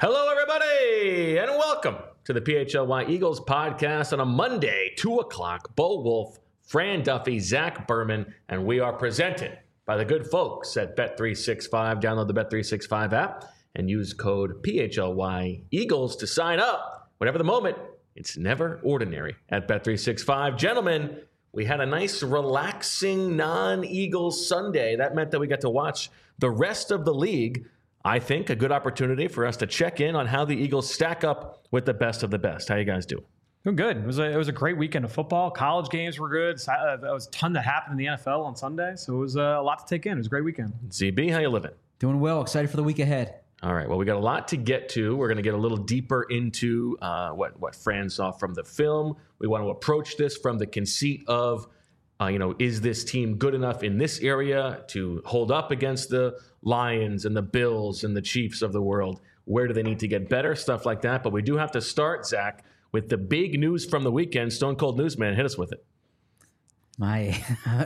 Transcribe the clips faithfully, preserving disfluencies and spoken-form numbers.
Hello, everybody, and welcome to the P H L Y Eagles podcast on a Monday, two o'clock. Bo Wolf, Fran Duffy, Zach Berman, and we are presented by the good folks at Bet three sixty-five. Download the Bet three sixty-five app and use code P H L Y Eagles to sign up. Whatever the moment, it's never ordinary at Bet three sixty-five. Gentlemen, we had a nice, relaxing, non-Eagles Sunday. That meant that we got to watch the rest of the league. I think a good opportunity for us to check in on how the Eagles stack up with the best of the best. How you guys doing? Doing good. It was a, it was a great weekend of football. College games were good. Uh, there was a ton that happened in the N F L on Sunday, so it was uh, a lot to take in. It was a great weekend. Z B, how you living? Doing well. Excited for the week ahead. All right. Well, we got a lot to get to. We're going to get a little deeper into uh, what what Fran saw from the film. We want to approach this from the conceit of, uh, you know, is this team good enough in this area to hold up against the Lions and the Bills and the Chiefs of the world? Where do they need to get better? Stuff like that. But we do have to start, Zach, with the big news from the weekend. Stone Cold Newsman, hit us with it. My,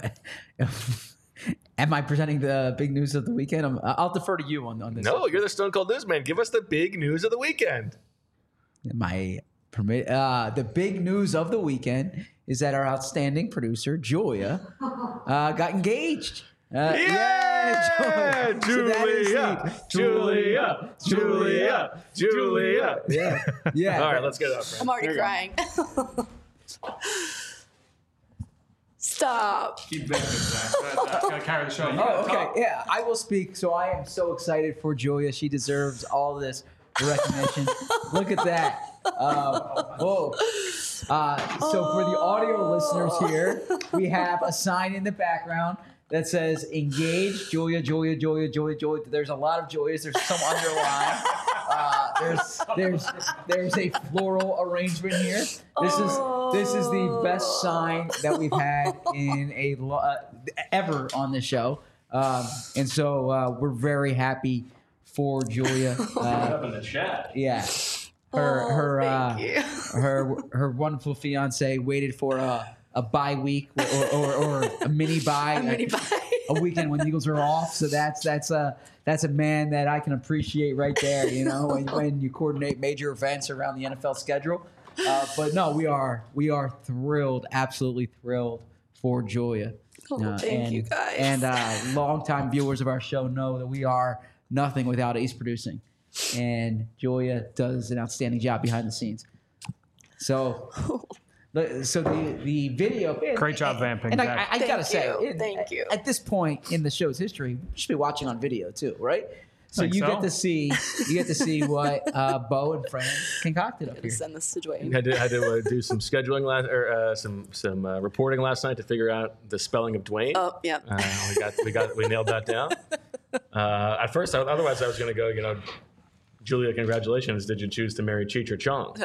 am I presenting the big news of the weekend? I'm, I'll defer to you on, on this. No, you're the Stone Cold Newsman. Give us the big news of the weekend. My permit. Uh, the big news of the weekend is that our outstanding producer Julia uh, got engaged. Uh, yeah, Julia, Julia, so Julia, Julia, Julia. Yeah, yeah. All right, let's get it up. I'm already crying. Stop. Keep banging, Zach. Gotta carry the show. Oh, okay. Yeah, I will speak. So I am so excited for Julia. She deserves all this recognition. Look at that. Uh, whoa. Uh, so for the audio listeners here, we have a sign in the background that says engage Julia, Julia, Julia, Julia, Julia. There's a lot of Julias. There's some underlined. Uh, there's there's there's a floral arrangement here. This is this is the best sign that we've had in a lo- uh, ever on the show, um, and so uh, we're very happy for Julia. Uh, Up in the chat. yeah, her Oh, her uh, thank you. her her wonderful fiance waited for a a bye week or or, or a mini bye. A mini bye. A weekend when the Eagles are off, so that's that's a that's a man that I can appreciate right there. You know, when, when you coordinate major events around the N F L schedule. Uh, but no, we are we are thrilled, absolutely thrilled for Julia. Oh, Uh, thank and, you guys. And uh, longtime viewers of our show know that we are nothing without Ace Producing, and Julia does an outstanding job behind the scenes. So. So the, the video, Great job vamping, and I, Zach. I, I gotta Thank say, you. it- Thank you. At this point in the show's history, we should be watching on video too, right? So Think you so? get to see you get to see what uh, Bo and Fran concocted up I'm gonna here. send this to Dwayne. Had to, had to uh, do some scheduling last, or uh, some some uh, reporting last night to figure out the spelling of Dwayne. Oh, yeah. Uh, we got we got we nailed that down. Uh, at first, I, otherwise I was going to go. You know, Julia, congratulations. Did you choose to marry Cheech or Chong?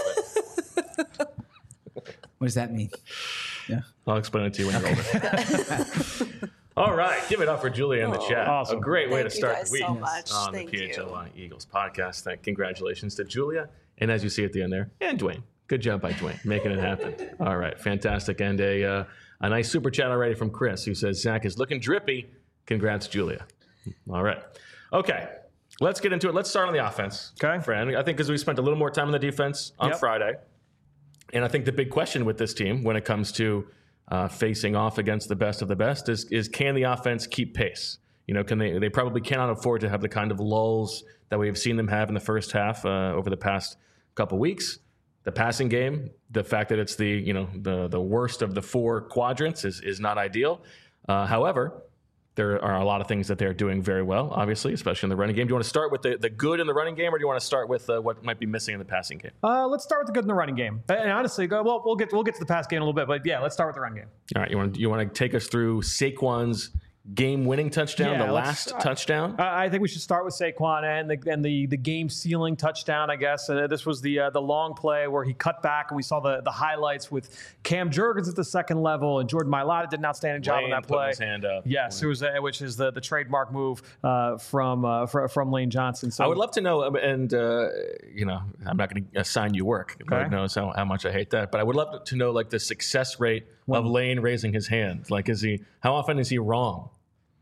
What does that mean? Yeah. I'll explain it to you when you're older. All right, give it up for Julia in the chat. Awesome. A great way Thank to you start guys the week so much. on Thank the P H L you. Y Eagles podcast. Thank, congratulations to Julia, and as you see at the end there, and Dwayne. Good job by Dwayne making it happen. All right, fantastic, and a uh, a nice super chat already from Chris who says Zach is looking drippy. Congrats, Julia. All right, okay. Let's get into it. Let's start on the offense. Okay. Fran. I think because we spent a little more time on the defense on Yep. Friday. And I think the big question with this team when it comes to uh, facing off against the best of the best is, is can the offense keep pace? You know, can they? They probably cannot afford to have the kind of lulls that we have seen them have in the first half uh, over the past couple weeks. The passing game, the fact that it's the you know the the worst of the four quadrants is is not ideal. Uh, however, there are a lot of things that they're doing very well, obviously, especially in the running game. Do you want to start with the, the good in the running game, or do you want to start with uh, what might be missing in the passing game? Uh, let's start with the good in the running game. And honestly, go, well, we'll get we'll get to the pass game in a little bit, but yeah, let's start with the run game. All right, you want to, you want to take us through Saquon's game-winning touchdown, Yeah, the let's- last touchdown? Uh, I think we should start with Saquon and the and the, the game sealing touchdown. I guess uh, this was the uh, the long play where he cut back, and we saw the, the highlights with Cam Jurgens at the second level, and Jordan Mailata did an outstanding job Lane on that putting play. his hand up. Yes, it was uh, which is the, the trademark move uh, from uh, fr- from Lane Johnson. So I would love to know, um, and uh, you know, I'm not going to assign you work. Okay. Lord knows how, how much I hate that, but I would love to know like the success rate of Lane raising his hand. Like, is he? How often is he wrong?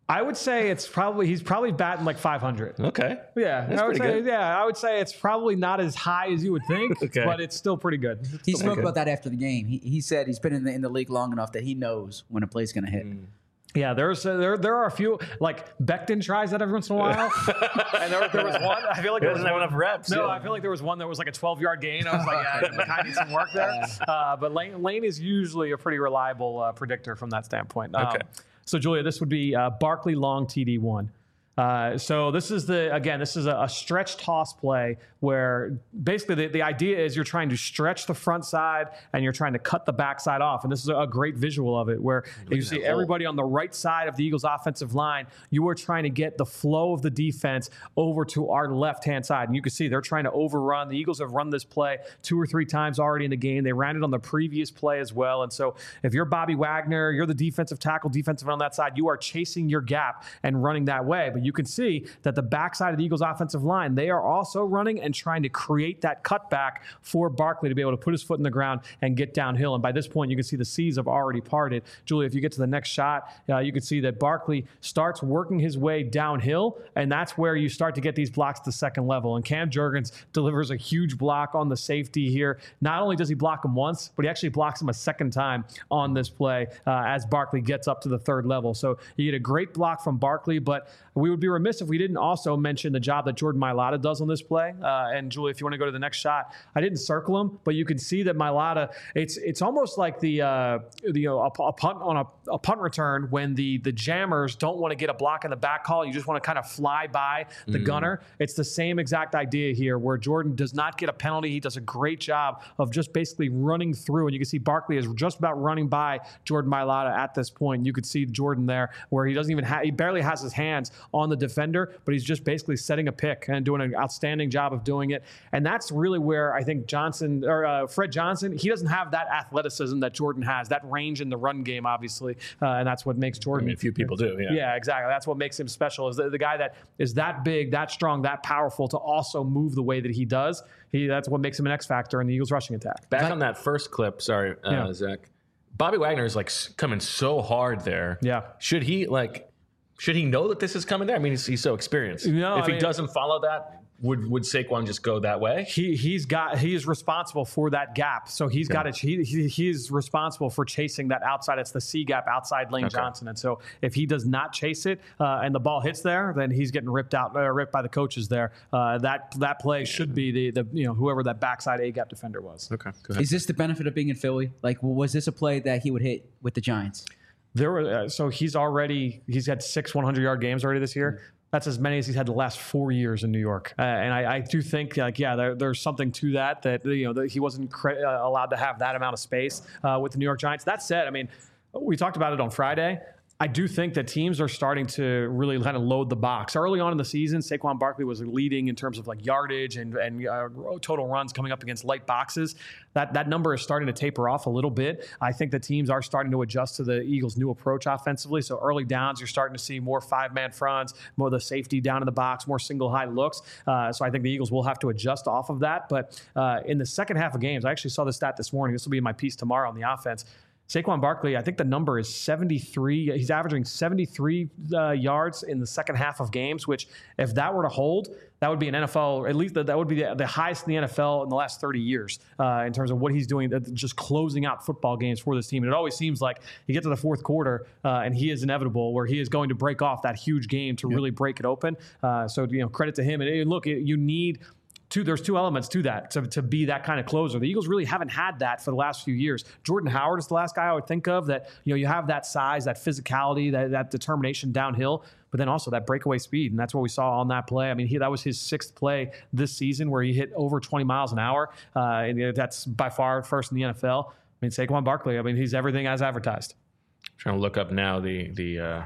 I would say it's probably he's probably batting like five hundred. Okay. Yeah, That's I would pretty say good. yeah, I would say it's probably not as high as you would think, Okay. but it's still pretty good. It's He still spoke pretty about that after the game. He, he said he's been in the in the league long enough that he knows when a play's going to hit. Mm. good. Yeah, there's uh, there there are a few like Becton tries that every once in a while, and there, there was one. I feel like He there was doesn't have one, enough reps. No, yeah. I feel like there was one that was like a twelve yard gain. I was like, yeah, I kind of need some work there. Uh, but Lane, Lane is usually a pretty reliable uh, predictor from that standpoint. Um, Okay. So Julia, this would be uh, Barkley long T D one. Uh, so this is the again, this is a, a stretch toss play where basically the, the idea is you're trying to stretch the front side and you're trying to cut the back side off. And this is a great visual of it where you see everybody on the right side of the Eagles offensive line. You are trying to get the flow of the defense over to our left-hand side. And you can see they're trying to overrun. The Eagles have run this play two or three times already in the game. They ran it on the previous play as well. And so if you're Bobby Wagner, you're the defensive tackle, defensive on that side, you are chasing your gap and running that way. But you can see that the backside of the Eagles offensive line, they are also running and trying to create that cutback for Barkley to be able to put his foot in the ground and get downhill. And by this point, you can see the seas have already parted. Julie, if you get to the next shot, uh, you can see that Barkley starts working his way downhill, and that's where you start to get these blocks to second level. And Cam Jurgens delivers a huge block on the safety here. Not only does he block him once, but he actually blocks him a second time on this play uh, as Barkley gets up to the third level. So you get a great block from Barkley, but we would be remiss if we didn't also mention the job that Jordan Mailata does on this play. Uh, and Julie, if you want to go to the next shot, I didn't circle him, but you can see that Mailata, it's it's almost like the, uh, the you know, a, a punt on a, a punt return when the the jammers don't want to get a block in the back call. You just want to kind of fly by the mm. gunner. It's the same exact idea here where Jordan does not get a penalty. He does a great job of just basically running through. And you can see Barkley is just about running by Jordan Mailata at this point. You could see Jordan there where he doesn't even have, he barely has his hands on the defender, but he's just basically setting a pick and doing an outstanding job of doing it. And that's really where I think Johnson or uh, Fred Johnson, he doesn't have that athleticism that Jordan has, that range in the run game, obviously. Uh, and that's what makes Jordan. I mean, a few people do, yeah. Yeah, exactly. That's what makes him special is the, the guy that is that big, that strong, that powerful to also move the way that he does. He That's what makes him an X factor in the Eagles rushing attack. Back on that first clip, sorry, uh, Yeah. Zach. Bobby Wagner is like coming so hard there. Yeah. Should he like? Should he know that this is coming there? I mean, he's, he's so experienced. No, if I he mean- doesn't follow that, would would Saquon just go that way? He he's got he is responsible for that gap, so he's got to he, he he's responsible for chasing that outside. It's the C gap outside Lane Okay. Johnson, and so if he does not chase it uh, and the ball hits there, then he's getting ripped out, uh, ripped by the coaches there. Uh, that that play should be the the you know whoever that backside A gap defender was. Okay, go ahead. Is this the benefit of being in Philly? Like, was this a play that he would hit with the Giants? There were uh, so he's already he's had six hundred yard games already this year. That's as many as he's had the last four years in New York. Uh, and I, I do think, like, yeah, there, there's something to that, that, you know, that he wasn't cre- uh, allowed to have that amount of space uh, with the New York Giants. That said, I mean, we talked about it on Friday. I do think that teams are starting to really kind of load the box. Early on in the season, Saquon Barkley was leading in terms of like yardage and, and uh, total runs coming up against light boxes. That that number is starting to taper off a little bit. I think the teams are starting to adjust to the Eagles' new approach offensively. So early downs, you're starting to see more five-man fronts, more of the safety down in the box, more single high looks. Uh, so I think the Eagles will have to adjust off of that. But uh, in the second half of games, I actually saw the stat this morning. This will be in my piece tomorrow on the offense. Saquon Barkley, I think the number is seventy-three. He's averaging seventy-three uh, yards in the second half of games, which if that were to hold, that would be an N F L, at least that would be the, the highest in the N F L in the last thirty years uh, in terms of what he's doing, just closing out football games for this team. And it always seems like you get to the fourth quarter uh, and he is inevitable where he is going to break off that huge game to yep. really break it open. Uh, so, you know, credit to him. And, and look, you need – Two, there's two elements to that, to, to be that kind of closer. The Eagles really haven't had that for the last few years. Jordan Howard is the last guy I would think of that, you know, you have that size, that physicality, that, that determination downhill, but then also that breakaway speed. And that's what we saw on that play. I mean, he, that was his sixth play this season where he hit over twenty miles an hour. Uh, and that's by far first in the N F L. I mean, Saquon Barkley, I mean, he's everything as advertised. I'm trying to look up now the, the uh,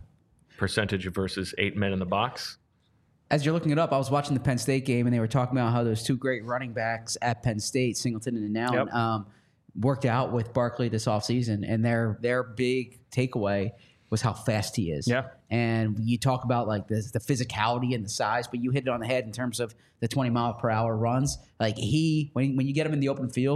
percentage versus eight men in the box. As you're looking it up, I was watching the Penn State game, and they were talking about how those two great running backs at Penn State, Singleton and Allen, Yep. um, worked out with Barkley this offseason, and their their big takeaway was how fast he is. Yeah. And you talk about like the, the physicality and the size, but you hit it on the head in terms of the twenty mile per hour runs. Like he, when when you get him in the open field,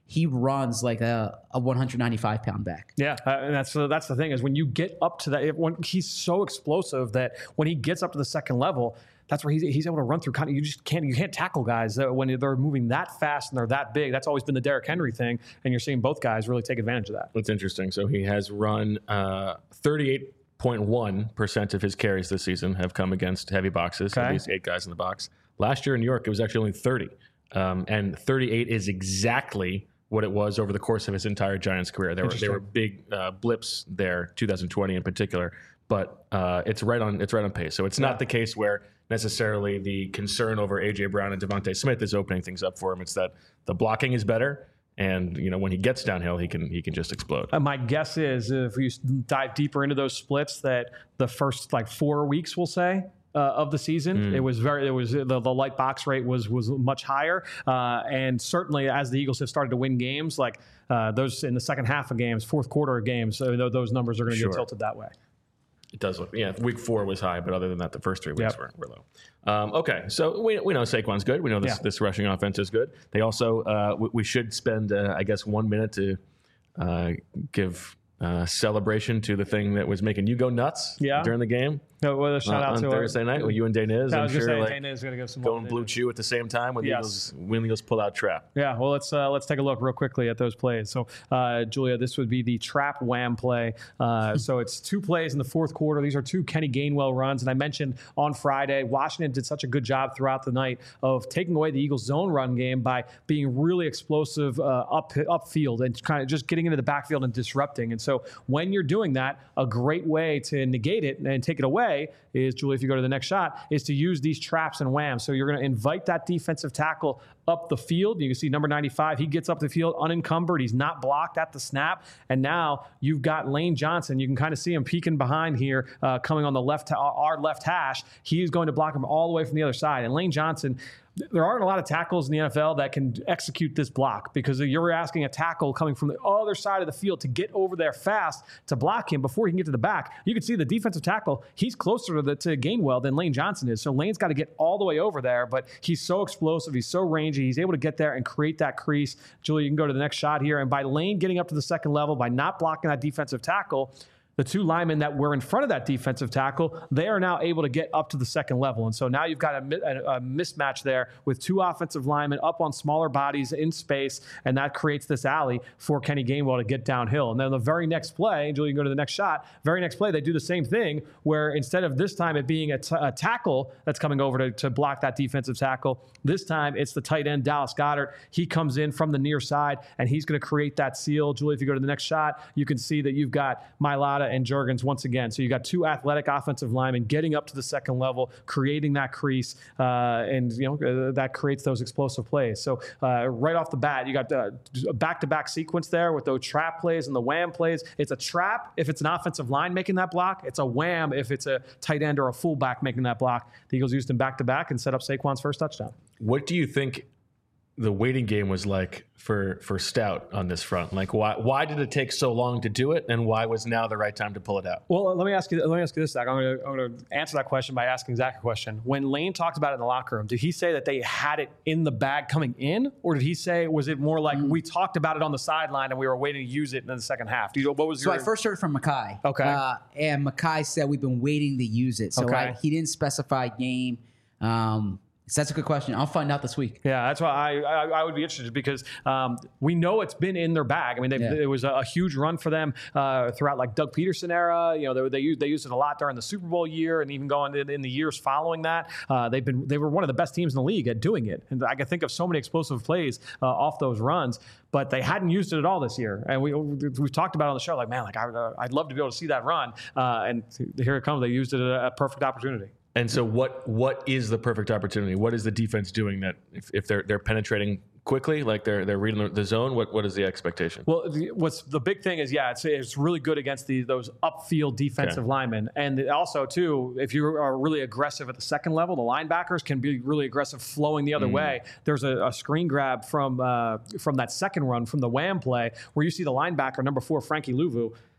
he runs like a, a one hundred ninety-five pound back. Yeah, uh, and that's uh, that's the thing is when you get up to that, when he's so explosive that when he gets up to the second level, that's where he's, he's able to run through. Kind of, you just can't you can't tackle guys uh, when they're moving that fast and they're that big. That's always been the Derrick Henry thing, and you're seeing both guys really take advantage of that. That's interesting. So he has run uh, thirty-eight point one percent of his carries this season have come against heavy boxes. Okay. At least eight guys in the box. Last year in New York, it was actually only thirty, um, and thirty-eight is exactly what it was over the course of his entire Giants career. There were there were big uh, blips there, two thousand twenty in particular, but uh, it's right on it's right on pace. So it's not Yeah. the case where necessarily the concern over A J Brown and Devontae Smith is opening things up for him. It's that the blocking is better, and you know when he gets downhill, he can he can just explode. Uh, my guess is if we dive deeper into those splits, that the first like four weeks, we'll say. Uh, of the season, mm. it was very. It was the, the light box rate was was much higher, uh, and certainly as the Eagles have started to win games, like uh, those in the second half of games, fourth quarter of games, so those numbers are going to Sure. get tilted that way. It does look, yeah. Week four was high, but other than that, the first three weeks Yep. were, were low. Um, okay, so we we know Saquon's good. We know this Yeah. this rushing offense is good. They also uh, we, we should spend uh, I guess one minute to uh, give uh, celebration to the thing that was making you go nuts Yeah. during the game. No, well, a shout uh, out on to Thursday our, night with you and Daniz. I I'm was sure going to like say Dana is going to give some going blue chew at the same time when the Yes. Eagles when the Eagles pull out trap. Yeah, well, let's uh, let's take a look real quickly at those plays. So, uh, Julia, this would be the trap wham play. Uh, so it's two plays in the fourth quarter. These are two Kenny Gainwell runs, and I mentioned on Friday, Washington did such a good job throughout the night of taking away the Eagles' zone run game by being really explosive uh, up upfield and kind of just getting into the backfield and disrupting. And so, when you're doing that, a great way to negate it and take it away is, Julie, if you go to the next shot, is to use these traps and whams. So you're going to invite that defensive tackle up the field. You can see number ninety-five, he gets up the field unencumbered. He's not blocked at the snap. And now you've got Lane Johnson. You can kind of see him peeking behind here, uh, coming on the left, our left hash. He's going to block him all the way from the other side. And Lane Johnson, there aren't a lot of tackles in the N F L that can execute this block because you're asking a tackle coming from the other side of the field to get over there fast to block him before he can get to the back. You can see the defensive tackle, he's closer to, the, to Gainwell than Lane Johnson is. So Lane's got to get all the way over there, but he's so explosive, he's so rangy, he's able to get there and create that crease. Julie, you can go to the next shot here. And by Lane getting up to the second level, by not blocking that defensive tackle, the two linemen that were in front of that defensive tackle, they are now able to get up to the second level. And so now you've got a, a, a mismatch there with two offensive linemen up on smaller bodies in space, and that creates this alley for Kenny Gainwell to get downhill. And then the very next play, Julie, you can go to the next shot, very next play, they do the same thing where instead of this time it being a, t- a tackle that's coming over to, to block that defensive tackle, this time it's the tight end, Dallas Goedert. He comes in from the near side, and he's going to create that seal. Julie, if you go to the next shot, you can see that you've got Mailata and Juergens once again. So you got two athletic offensive linemen getting up to the second level, creating that crease, uh, and you know uh, that creates those explosive plays. So uh, right off the bat, you got the back-to-back sequence there with those trap plays and the wham plays. It's a trap if it's an offensive line making that block. It's a wham if it's a tight end or a fullback making that block. The Eagles used them back-to-back and set up Saquon's first touchdown. What do you think the waiting game was like for for Stout on this front? Like, why why did it take so long to do it, and why was now the right time to pull it out? Well, let me ask you. Let me ask you this, Zach. I'm going to I'm going to answer that question by asking Zach a question. When Lane talked about it in the locker room, did he say that they had it in the bag coming in, or did he say was it more like mm. we talked about it on the sideline and we were waiting to use it in the second half? Do you know what was so your? I first heard from Mackay. Okay. Uh, and Mackay said we've been waiting to use it. So Okay. I, he didn't specify game. Um, So that's a good question. I'll find out this week. Yeah, that's why I I, I would be interested because um, we know it's been in their bag. I mean, Yeah. it was a, a huge run for them uh, throughout like Doug Peterson era. You know, they, they used they used it a lot during the Super Bowl year and even going in, in the years following that. Uh, they've been they were one of the best teams in the league at doing it, and I can think of so many explosive plays uh, off those runs. But they hadn't used it at all this year, and we we've talked about it on the show. Like, man, like I, uh, I'd love to be able to see that run, uh, and here it comes. They used it at a perfect opportunity. And so, what what is the perfect opportunity? What is the defense doing that if, if they're they're penetrating quickly, like they're they're reading the zone? What what is the expectation? Well, the, what's the big thing is, yeah, it's it's really good against the those upfield defensive Okay. linemen, and also too, if you are really aggressive at the second level, the linebackers can be really aggressive flowing the other Mm. way. There's a, a screen grab from uh, from that second run from the wham play where you see the linebacker number four, Frankie Louvu.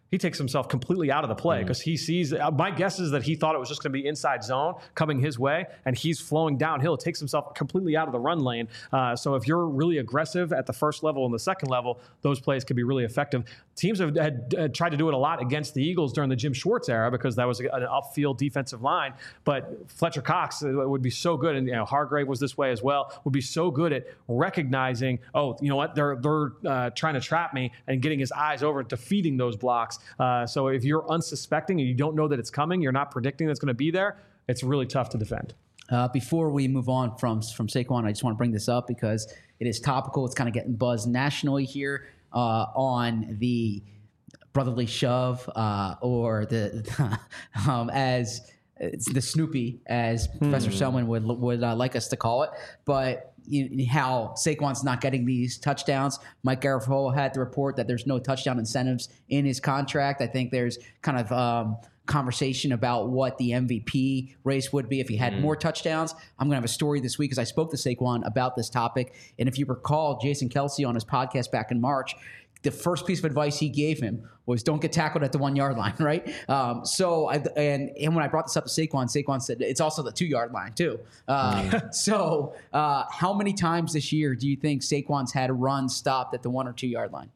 he takes himself completely out of the play because mm-hmm. he sees, uh, my guess is that he thought it was just going to be inside zone coming his way, and he's flowing downhill. It takes himself completely out of the run lane. Uh, so if you're really aggressive at the first level and the second level, those plays could be really effective. Teams have had, had tried to do it a lot against the Eagles during the Jim Schwartz era because that was an upfield defensive line. But Fletcher Cox would be so good, and you know, Hargrave was this way as well, would be so good at recognizing, oh, you know what, they're, they're uh, trying to trap me, and getting his eyes over and defeating those blocks. Uh, so if you're unsuspecting and you don't know that it's coming, you're not predicting that it's going to be there, it's really tough to defend. Uh, before we move on from from Saquon, I just want to bring this up because it is topical. It's kind of getting buzzed nationally here uh, on the brotherly shove uh, or the um, as it's the Snoopy, as hmm. Professor Selman would would uh, like us to call it, but. You, how Saquon's not getting these touchdowns. Mike Garafolo had to report that there's no touchdown incentives in his contract. I think there's kind of um, conversation about what the M V P race would be if he had mm. more touchdowns. I'm going to have a story this week because I spoke to Saquon about this topic. And if you recall, Jason Kelsey on his podcast back in March, the first piece of advice he gave him was don't get tackled at the one-yard line, right? Um, so, I, and, and when I brought this up to Saquon, Saquon said it's also the two-yard line too. Uh, so uh, how many times this year do you think Saquon's had a run stopped at the one- or two-yard line?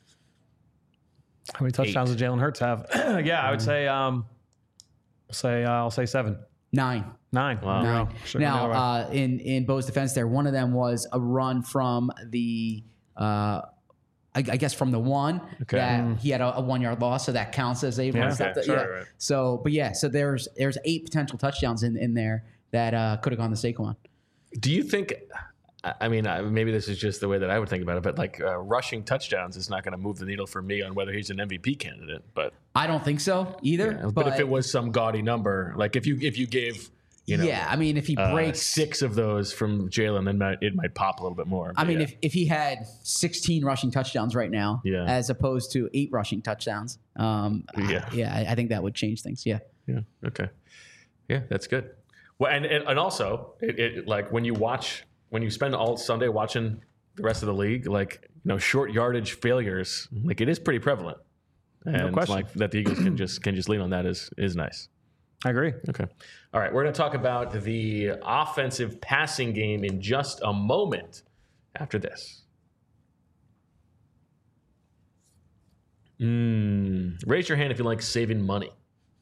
How many touchdowns Eight. does Jalen Hurts have? yeah, I would say, um, say uh, I'll say seven. Nine. Nine. Wow. Nine. No, now, uh, in, in Bo's defense there, one of them was a run from the uh, – I, I guess from the one okay. that mm. he had a, a one yard loss, so that counts as a yeah, run. okay. The, sure, yeah. Right. So, but yeah, so there's there's eight potential touchdowns in, in there that uh, could have gone to Saquon. Do you think? I mean, maybe this is just the way that I would think about it, but like uh, rushing touchdowns is not going to move the needle for me on whether he's an M V P candidate. But I don't think so either. Yeah, but, but if it was some gaudy number, like if you if you gave. You know, yeah, I mean, if he breaks uh, six of those from Jalen, then might, it might pop a little bit more. I mean, yeah. if, if he had sixteen rushing touchdowns right now, yeah. as opposed to eight rushing touchdowns, um, yeah, I, yeah, I, I think that would change things. Yeah, yeah, okay, yeah, that's good. Well, and and, and also, it, it like when you watch, when you spend all Sunday watching the rest of the league, like you know, short yardage failures, like it is pretty prevalent, and no question. like that the Eagles can just can just lean on that is is nice. I agree. Okay. All right. We're going to talk about the offensive passing game in just a moment after this. Mm. Raise your hand if you like saving money.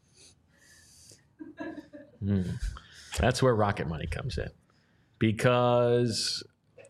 Mm. That's where Rocket Money comes in. Because,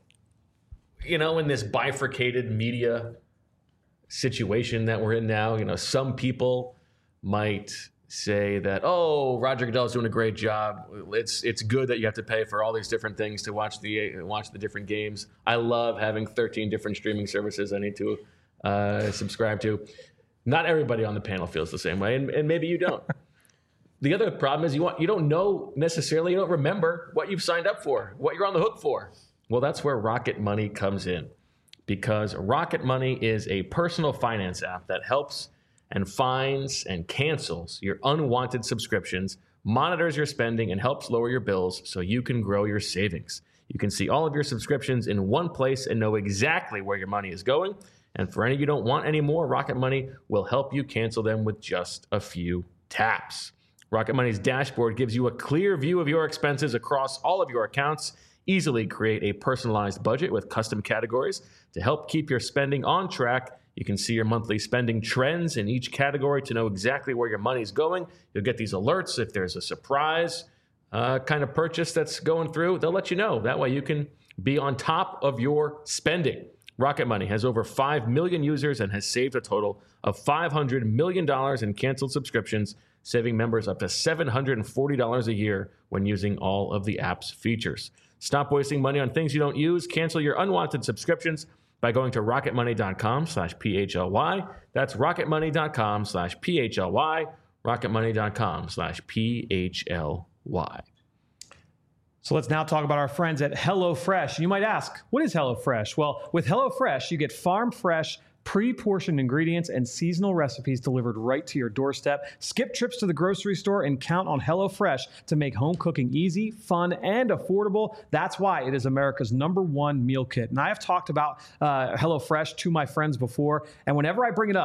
you know, in this bifurcated media situation that we're in now, you know, some people might say that, oh, Roger Goodell's doing a great job. It's it's good that you have to pay for all these different things to watch the watch the different games. I love having thirteen different streaming services I need to uh, subscribe to. Not everybody on the panel feels the same way, and, and maybe you don't. The other problem is you want you don't know necessarily, you don't remember what you've signed up for, what you're on the hook for. Well, that's where Rocket Money comes in, because Rocket Money is a personal finance app that helps and finds and cancels your unwanted subscriptions, monitors your spending, and helps lower your bills so you can grow your savings. You can see all of your subscriptions in one place and know exactly where your money is going. And for any you don't want anymore, Rocket Money will help you cancel them with just a few taps. Rocket Money's dashboard gives you a clear view of your expenses across all of your accounts. Easily create a personalized budget with custom categories to help keep your spending on track. You can see your monthly spending trends in each category to know exactly where your money's going. You'll get these alerts if there's a surprise uh, kind of purchase that's going through. They'll let you know. That way you can be on top of your spending. Rocket Money has over five million users and has saved a total of five hundred million dollars in canceled subscriptions, saving members up to seven hundred forty dollars a year when using all of the app's features. Stop wasting money on things you don't use. Cancel your unwanted subscriptions by going to rocketmoney.com slash PHLY. That's rocketmoney.com slash PHLY. rocketmoney.com slash PHLY. So let's now talk about our friends at HelloFresh. You might ask, what is HelloFresh? Well, with HelloFresh, you get farm-fresh, pre-portioned ingredients and seasonal recipes delivered right to your doorstep. Skip trips to the grocery store and count on HelloFresh to make home cooking easy, fun, and affordable. That's why it is America's number one meal kit. And I have talked about uh, HelloFresh to my friends before, and whenever I bring it up,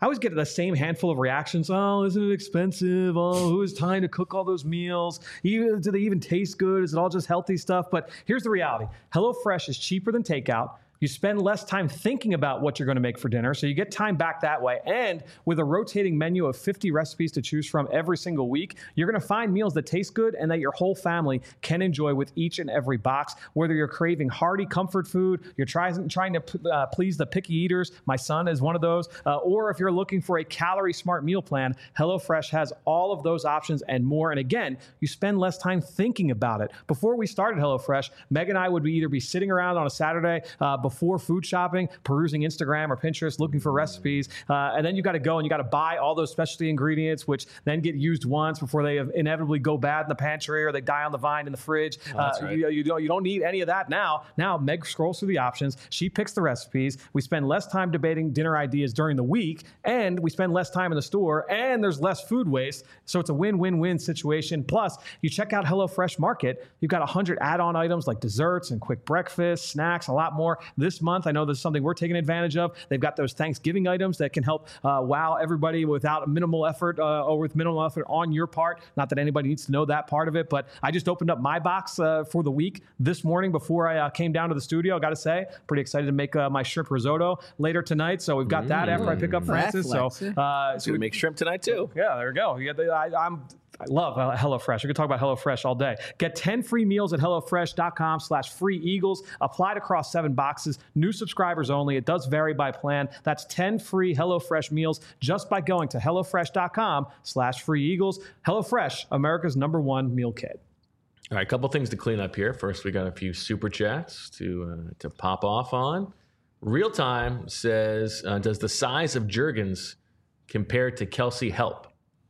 I always get the same handful of reactions. Oh, isn't it expensive? Oh, who has time to cook all those meals? Even, do they even taste good? Is it all just healthy stuff? But here's the reality. HelloFresh is cheaper than takeout. You spend less time thinking about what you're going to make for dinner, so you get time back that way. And with a rotating menu of fifty recipes to choose from every single week, you're going to find meals that taste good and that your whole family can enjoy with each and every box. Whether you're craving hearty comfort food, you're trying, trying to uh, please the picky eaters, my son is one of those, uh, or if you're looking for a calorie-smart meal plan, HelloFresh has all of those options and more. And again, you spend less time thinking about it. Before we started HelloFresh, Meg and I would be either be sitting around on a Saturday uh, before food shopping, perusing Instagram or Pinterest, looking for recipes. Uh, and then you got to go and you got to buy all those specialty ingredients, which then get used once before they inevitably go bad in the pantry or they die on the vine in the fridge. Oh, that's uh, right. you, you, don't, you don't need any of that now. Now, Meg scrolls through the options. She picks the recipes. We spend less time debating dinner ideas during the week, and we spend less time in the store, and there's less food waste. So it's a win-win-win situation. Plus, you check out HelloFresh Market. You've got one hundred add-on items like desserts and quick breakfast, snacks, a lot more. This month, I know this is something we're taking advantage of. They've got those Thanksgiving items that can help uh, wow everybody without minimal effort uh, or with minimal effort on your part. Not that anybody needs to know that part of it, but I just opened up my box uh, for the week this morning before I uh, came down to the studio. I got to say, pretty excited to make uh, my shrimp risotto later tonight. So we've got mm. that after I pick up Francis. So, uh, so we make shrimp tonight too. Yeah, there we go. You got the, I, I'm. I love HelloFresh. We could talk about HelloFresh all day. Get ten free meals at HelloFresh.com slash free Eagles. Applied across seven boxes. New subscribers only. It does vary by plan. That's ten free HelloFresh meals just by going to HelloFresh.com slash free Eagles. HelloFresh, America's number one meal kit. All right, a couple things to clean up here. First, we got a few super chats to uh, to pop off on. Real Time says, uh, does the size of Juergens compare to Kelsey help?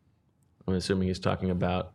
I'm assuming he's talking about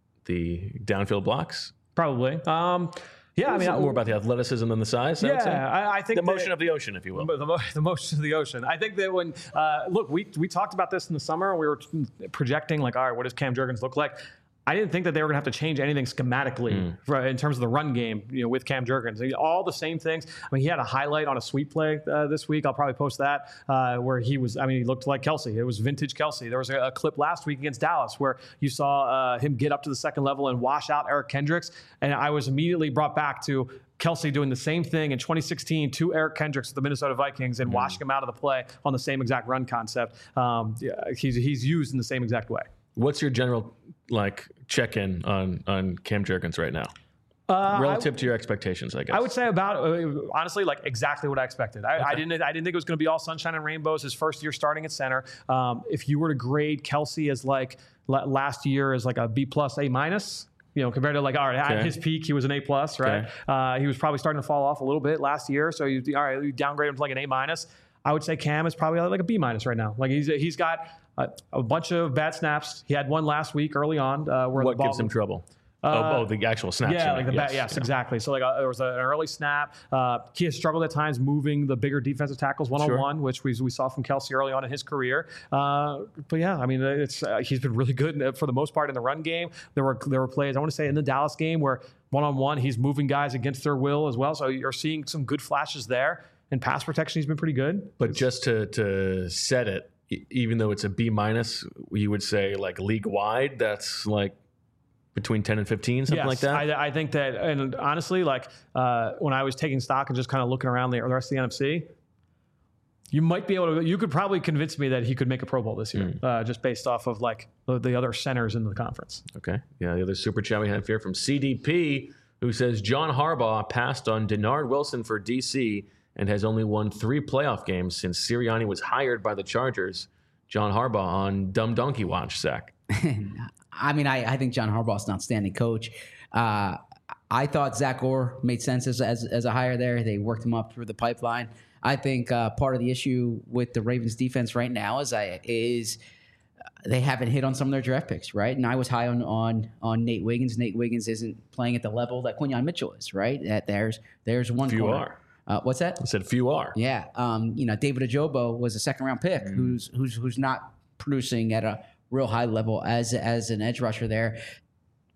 the downfield blocks. Probably. Um, yeah, I mean, more about the athleticism than the size. Yeah, I, would say. I, I think the motion that, of the ocean, if you will. The, mo- the motion of the ocean. I think that when uh, look, we we talked about this in the summer. We were projecting like, all right, what does Cam Juergens look like? I didn't think that they were going to have to change anything schematically mm. for, in terms of the run game, you know, with Cam Juergens. All the same things. I mean, he had a highlight on a sweep play uh, this week. I'll probably post that uh, where he was. I mean, he looked like Kelsey. It was vintage Kelsey. There was a, a clip last week against Dallas where you saw uh, him get up to the second level and wash out Eric Kendricks, and I was immediately brought back to Kelsey doing the same thing in twenty sixteen to Eric Kendricks with the Minnesota Vikings and mm. washing him out of the play on the same exact run concept. Um, yeah, he's he's used in the same exact way. What's your general like check-in on on Cam Juergens right now, uh, relative I, to your expectations? I guess I would say about uh, honestly, like exactly what I expected. I, okay. I didn't I didn't think it was going to be all sunshine and rainbows. His first year starting at center. Um, if you were to grade Kelsey as like l- last year as like a B plus, A minus. You know, compared to like, all right, okay. at his peak, he was an A plus, right? Okay. Uh, he was probably starting to fall off a little bit last year. So you, all right, you downgrade him to like an A minus. I would say Cam is probably like a B minus right now. Like he's he's got a, a bunch of bad snaps. He had one last week early on uh, where what the ball gives him trouble. Uh, oh, oh, the actual snaps. Yeah, like the yes, ba- yes, yeah. exactly. So like uh, there was a, an early snap. Uh, he has struggled at times moving the bigger defensive tackles one on one, which we we saw from Kelsey early on in his career. Uh, but yeah, I mean, it's uh, he's been really good for the most part in the run game. There were there were plays I want to say in the Dallas game where one on one he's moving guys against their will as well. So you're seeing some good flashes there. In pass protection, he's been pretty good. But just to to set it, even though it's a B minus, you would say like league wide, that's like between ten and fifteen, something yes, like that? I, I think that, and honestly, like uh, when I was taking stock and just kind of looking around the, the rest of the N F C, you might be able to, you could probably convince me that he could make a Pro Bowl this year, mm. uh, just based off of like the, the other centers in the conference. Okay. Yeah, the other super chat we have here from C D P, who says John Harbaugh passed on Denard Wilson for D C and has only won three playoff games since Sirianni was hired by the Chargers. John Harbaugh on Dumb Donkey Watch, Zach. I mean, I, I think John Harbaugh is an outstanding coach. Uh, I thought Zach Orr made sense as, as, as a hire there. They worked him up through the pipeline. I think uh, part of the issue with the Ravens defense right now is I, is they haven't hit on some of their draft picks, right? And I was high on on, on Nate Wiggins. Nate Wiggins isn't playing at the level that Quinyon Mitchell is, right? That there's there's one Few corner. are. Uh, what's that? I said few are. Yeah. Um, you know, David Ajobo was a second round pick mm. who's who's who's not producing at a real high level as as an edge rusher there.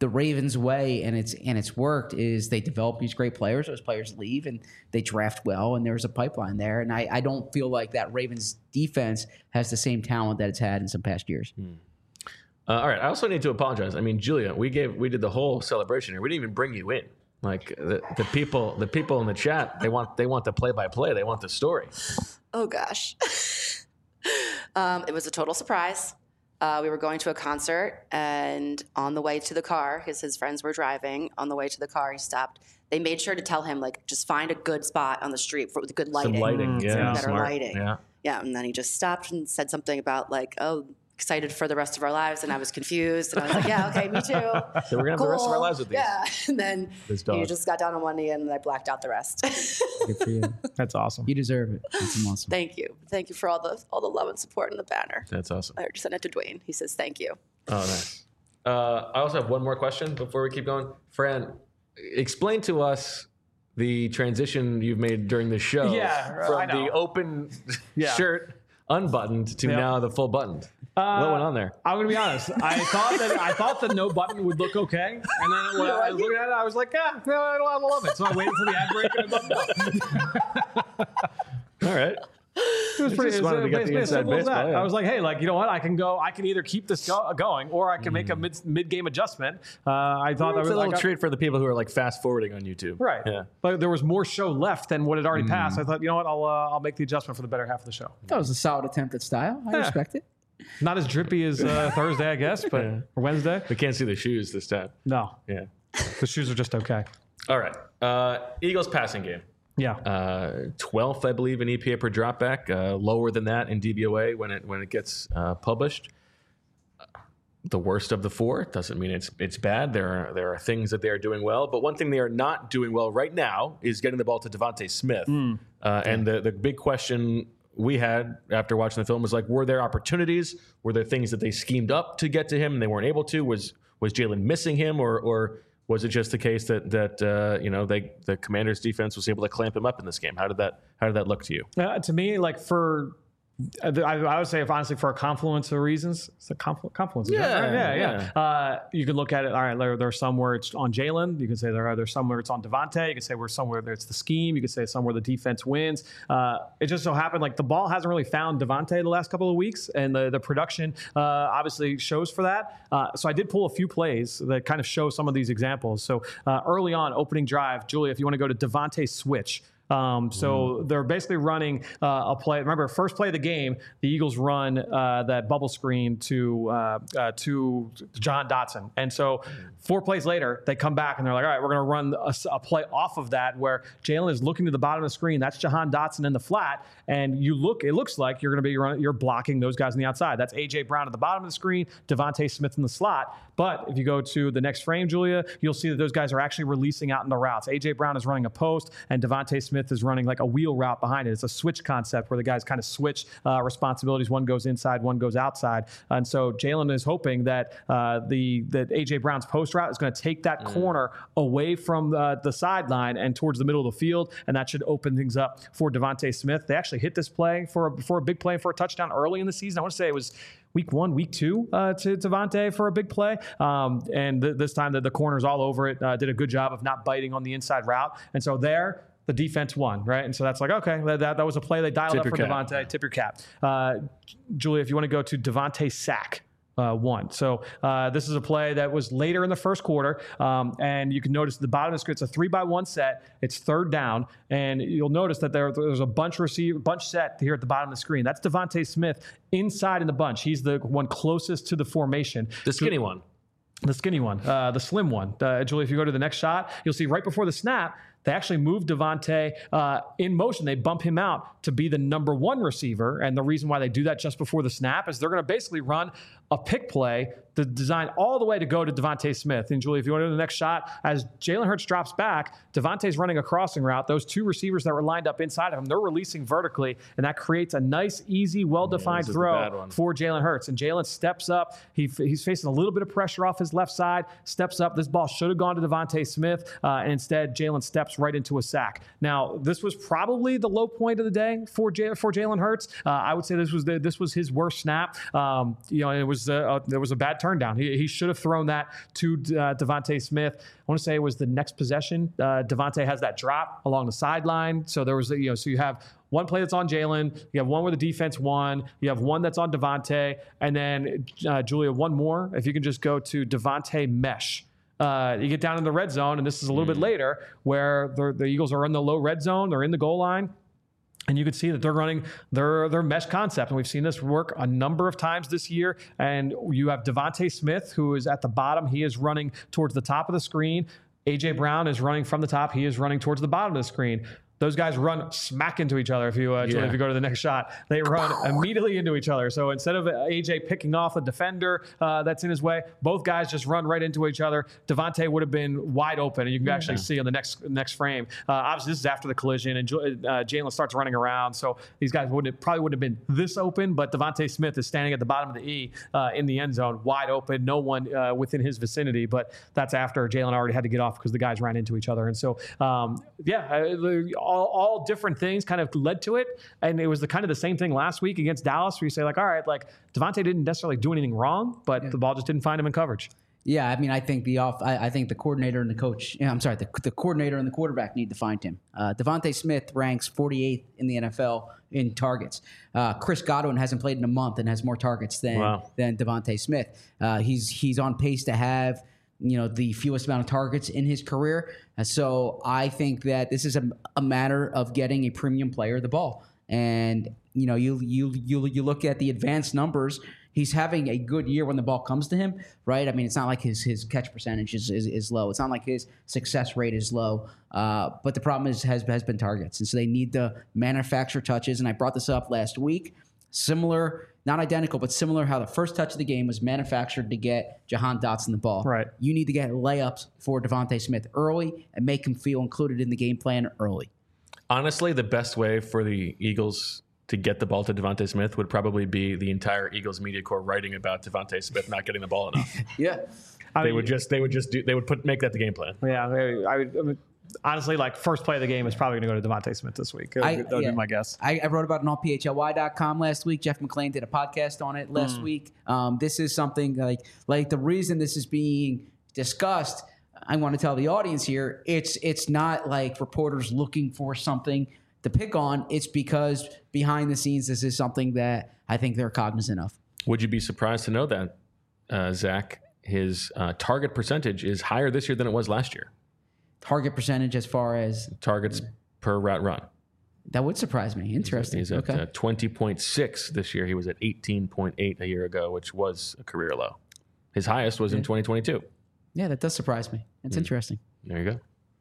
the Ravens way, and it's and it's worked, is they develop these great players. Those players leave, and they draft well, and there's a pipeline there. And I, I don't feel like that Ravens defense has the same talent that it's had in some past years. Hmm. Uh, all right. I also need to apologize. I mean, Julia, we gave we did the whole celebration here. We didn't even bring you in. Like the, the people, the people in the chat, they want they want the play by play. They want the story. Oh gosh, um, it was a total surprise. Uh, we were going to a concert, and on the way to the car, because his friends were driving, on the way to the car, he stopped. They made sure to tell him, like, just find a good spot on the street for, with good lighting. Some lighting, yeah, Some better smart. lighting. Yeah. Yeah, and then he just stopped and said something about, like, oh, excited for the rest of our lives, and I was confused, and I was like, yeah, okay, me too. So we're gonna have cool. the rest of our lives with these. Yeah, and then This dog. he just got down on one knee, and I blacked out the rest. Good for you. That's awesome. You deserve it. That's awesome. Thank you, thank you for all the all the love and support in the banner. That's awesome. I just sent it to Dwayne. He says thank you. Oh, nice. Uh, I also have one more question before we keep going. Fran, explain to us the transition you've made during the show Yeah, I from know. the open Yeah. shirt unbuttoned to Yep. now the full buttoned. Uh, what went on there? I'm gonna be honest. I thought that I thought the no button would look okay, and then when I was looking at it, I was like, yeah, no, I don't, I don't love it. So I waited for the ad break and I buttoned it up. All right. It was You pretty. just It was, wanted to uh, get it's the as inside simple as baseball, that. yeah. I was like, hey, like you know what? I can go. I can either keep this go, going, or I can make a mid mid game adjustment. Uh, I thought that It's was a little like, treat for the people who are like fast forwarding on YouTube. right. Yeah. But there was more show left than what had already passed. I thought, you know what? I'll uh, I'll make the adjustment for the better half of the show. That was a solid attempt at style. I Yeah. respect it. Not as drippy as uh, Thursday, I guess, but Yeah. or Wednesday. We can't see the shoes this time. No, Yeah. the shoes are just okay. All right. Uh, Eagles passing game. Yeah. Uh, twelfth, I believe, in E P A per dropback. Uh, lower than that in D V O A when it when it gets uh, published. The worst of the four. Doesn't mean it's it's bad. There are there are things that they are doing well, but one thing they are not doing well right now is getting the ball to Devontae Smith. Mm. Uh, and the the big question we had after watching the film was like, were there opportunities? Were there things that they schemed up to get to him and they weren't able to? Was was Jalen missing him, or or was it just the case that that uh, you know they the Commanders' defense was able to clamp him up in this game? How did that how did that look to you? Uh, to me, like for, I, I would say, if honestly, for a confluence of reasons, it's a conflu- confluence. is that Yeah, right? yeah, yeah. yeah. Uh, you could look at it. All right, there, there's some where it's on Jalen. You could say there are there's some where it's on Devontae. You could say where somewhere it's the scheme. You could say somewhere the defense wins. Uh, it just so happened like the ball hasn't really found Devontae the last couple of weeks, and the the production uh, obviously shows for that. Uh, so I did pull a few plays that kind of show some of these examples. So uh, early on, opening drive, Julia, if you want to go to Devontae switch. Um, so they're basically running uh, a play. Remember, first play of the game, the Eagles run uh, that bubble screen to uh, uh, to Jahan Dotson, and so four plays later, they come back and they're like, "All right, we're going to run a, a play off of that where Jalen is looking to the bottom of the screen. That's Jahan Dotson in the flat, and you look. It looks like you're going to be run, you're blocking those guys on the outside. That's A J Brown at the bottom of the screen, Devontae Smith in the slot. But if you go to the next frame, Julia, you'll see that those guys are actually releasing out in the routes. A J Brown is running a post, and Devontae Smith Smith is running like a wheel route behind it. It's a switch concept where the guys kind of switch uh, responsibilities. One goes inside, one goes outside. And so Jalen is hoping that uh, the that A J Brown's post route is going to take that mm. corner away from the, the sideline and towards the middle of the field, and that should open things up for Devontae Smith. They actually hit this play for a, for a big play for a touchdown early in the season. I want to say it was week one, week two uh, to Devontae for a big play. Um, and th- this time the, the corner's all over it, uh, did a good job of not biting on the inside route. And so there, the defense won, right? And so that's like, okay, that, that was a play they dialed Tip up for your Devontae. cap. Tip your cap. Uh, Julia, if you want to go to Devontae sack. Uh, one. So uh, this is a play that was later in the first quarter, um, and you can notice at the bottom of the screen, it's a three by one set. It's third down, and you'll notice that there, there's a bunch receiver, bunch set here at the bottom of the screen. That's Devontae Smith inside in the bunch. He's the one closest to the formation. The skinny one. The skinny one, uh, the slim one. Uh, Julie, if you go to the next shot, you'll see right before the snap, they actually move Devontae uh, in motion. They bump him out to be the number one receiver. And the reason why they do that just before the snap is they're going to basically run a pick play to design all the way to go to Devontae Smith. And Julie, if you want to do the next shot, as Jalen Hurts drops back, Devontae's running a crossing route. Those two receivers that were lined up inside of him, they're releasing vertically, and that creates a nice, easy, well-defined yeah, throw for Jalen Hurts. And Jalen steps up. He, he's facing a little bit of pressure off his left side, steps up. This ball should have gone to Devontae Smith, uh, and instead Jalen steps steps right into a sack. Now, this was probably the low point of the day for J- for Jalen Hurts. Uh, I would say this was the, this was his worst snap. Um, you know, it was uh, there was a bad turn down. He, he should have thrown that to uh, Devontae Smith. I want to say it was the next possession. Uh, Devontae has that drop along the sideline. So there was, you know, so you have one play that's on Jalen. You have one where the defense won. You have one that's on Devontae. And then, uh, Julia, one more. If you can just go to Devontae Mesh. Uh, you get down in the red zone, and this is a little mm. bit later, where the, the Eagles are in the low red zone. They're in the goal line. And you can see that they're running their, their mesh concept. And we've seen this work a number of times this year. And you have Devontae Smith, who is at the bottom. He is running towards the top of the screen. A J Brown is running from the top. He is running towards the bottom of the screen. Those guys run smack into each other. If you uh, yeah. if you go to the next shot, they run immediately into each other. So instead of A J picking off a defender uh, that's in his way, both guys just run right into each other. Devontae would have been wide open, and you can yeah. actually see on the next next frame. Uh, obviously, this is after the collision, and uh, Jalen starts running around. So these guys wouldn't probably wouldn't have been this open, but Devontae Smith is standing at the bottom of the E uh, in the end zone, wide open, no one uh, within his vicinity. But that's after Jalen already had to get off because the guys ran into each other. And so, um, yeah, all, all different things kind of led to it. And it was the kind of the same thing last week against Dallas, where you say, like, all right, like Devontae didn't necessarily do anything wrong, but yeah. the ball just didn't find him in coverage. Yeah, I mean, I think the off. I, I think the coordinator and the coach. Yeah, I'm sorry, the, the coordinator and the quarterback need to find him. Uh, Devontae Smith ranks forty-eighth in the N F L in targets. Uh, Chris Godwin hasn't played in a month and has more targets than wow. than Devontae Smith. Uh, he's he's on pace to have, you know, the fewest amount of targets in his career. Uh, so I think that this is a, a matter of getting a premium player the ball. And you know, you you you you look at the advanced numbers. He's having a good year when the ball comes to him, right? I mean, it's not like his his catch percentage is is, is low. It's not like his success rate is low. Uh, but the problem is has has been targets, and so they need to manufacture touches. And I brought this up last week. Similar, not identical, but similar. How the first touch of the game was manufactured to get Jahan Dotson the ball. Right. You need to get layups for Devontae Smith early and make him feel included in the game plan early. Honestly, the best way for the Eagles to get the ball to Devontae Smith would probably be the entire Eagles media corps writing about Devontae Smith not getting the ball enough. yeah, I they mean, would just they would just do they would put make that the game plan. Yeah, I would. I mean, honestly, like first play of the game is probably going to go to Devontae Smith this week. That would yeah, be my guess. I, I wrote about it on P H L Y dot com last week. Jeff McClain did a podcast on it last mm. week. Um, this is something like like the reason this is being discussed. I want to tell the audience here. It's it's not like reporters looking for something to pick on. It's because behind the scenes, this is something that I think they're cognizant of. Would you be surprised to know that, uh, Zach, his uh, target percentage is higher this year than it was last year? Target percentage as far as? Targets per route run. That would surprise me. Interesting. He's at, okay. he's at uh, twenty point six this year. He was at eighteen point eight a year ago, which was a career low. His highest was yeah. in twenty twenty-two. Yeah, that does surprise me. It's mm. interesting. There you go.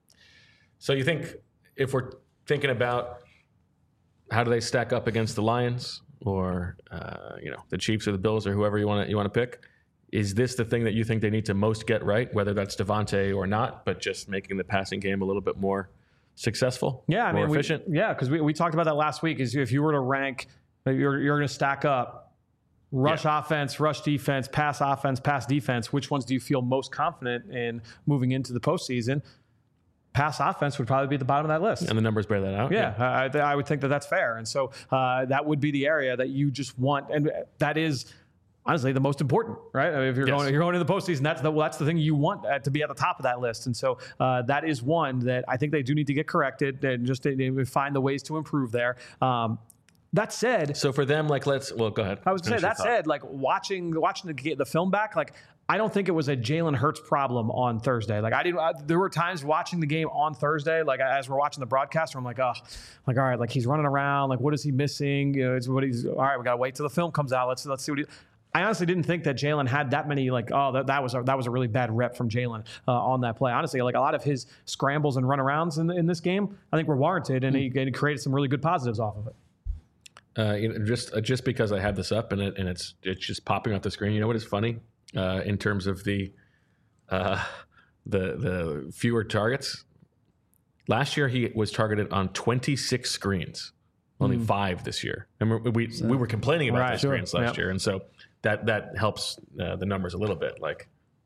So you think if we're thinking about how do they stack up against the Lions or uh, you know the Chiefs or the Bills or whoever you want to you want to pick, is this the thing that you think they need to most get right, whether that's Devontae or not, but just making the passing game a little bit more successful, yeah, I more mean, efficient? We, yeah, because we, we talked about that last week. Is if you were to rank, you're you're going to stack up rush yeah. offense, rush defense, pass offense, pass defense. Which ones do you feel most confident in moving into the postseason? Pass offense would probably be at the bottom of that list. And the numbers bear that out. Yeah, yeah. I, I would think that that's fair. And so uh, that would be the area that you just want. And that is honestly the most important, right? I mean, if you're yes. going, you're going to the postseason, that's the, well, that's the thing you want to be at the top of that list. And so uh, that is one that I think they do need to get corrected and just to find the ways to improve there. Um, That said, so for them, like let's well, go ahead. I would say that said, like watching watching the the film back, like I don't think it was a Jalen Hurts problem on Thursday. Like I didn't. I, there were times watching the game on Thursday, like as we're watching the broadcast, where I'm like, oh, like all right, like he's running around, like what is he missing? You know, it's what he's all right. We gotta wait till the film comes out. Let's let's see what he. I honestly didn't think that Jalen had that many, like, oh, that, that was a, that was a really bad rep from Jalen uh, on that play. Honestly, like a lot of his scrambles and runarounds in in this game, I think were warranted, and, mm-hmm. he, and he created some really good positives off of it. Uh, you know, just uh, just because I have this up and it and it's it's just popping off the screen. You know what is funny uh, in terms of the uh, the the fewer targets. Last year he was targeted on twenty-six screens, only mm. five this year. And we so, we were complaining about right, those screens sure. last yep. year, and so that that helps uh, the numbers a little bit. Like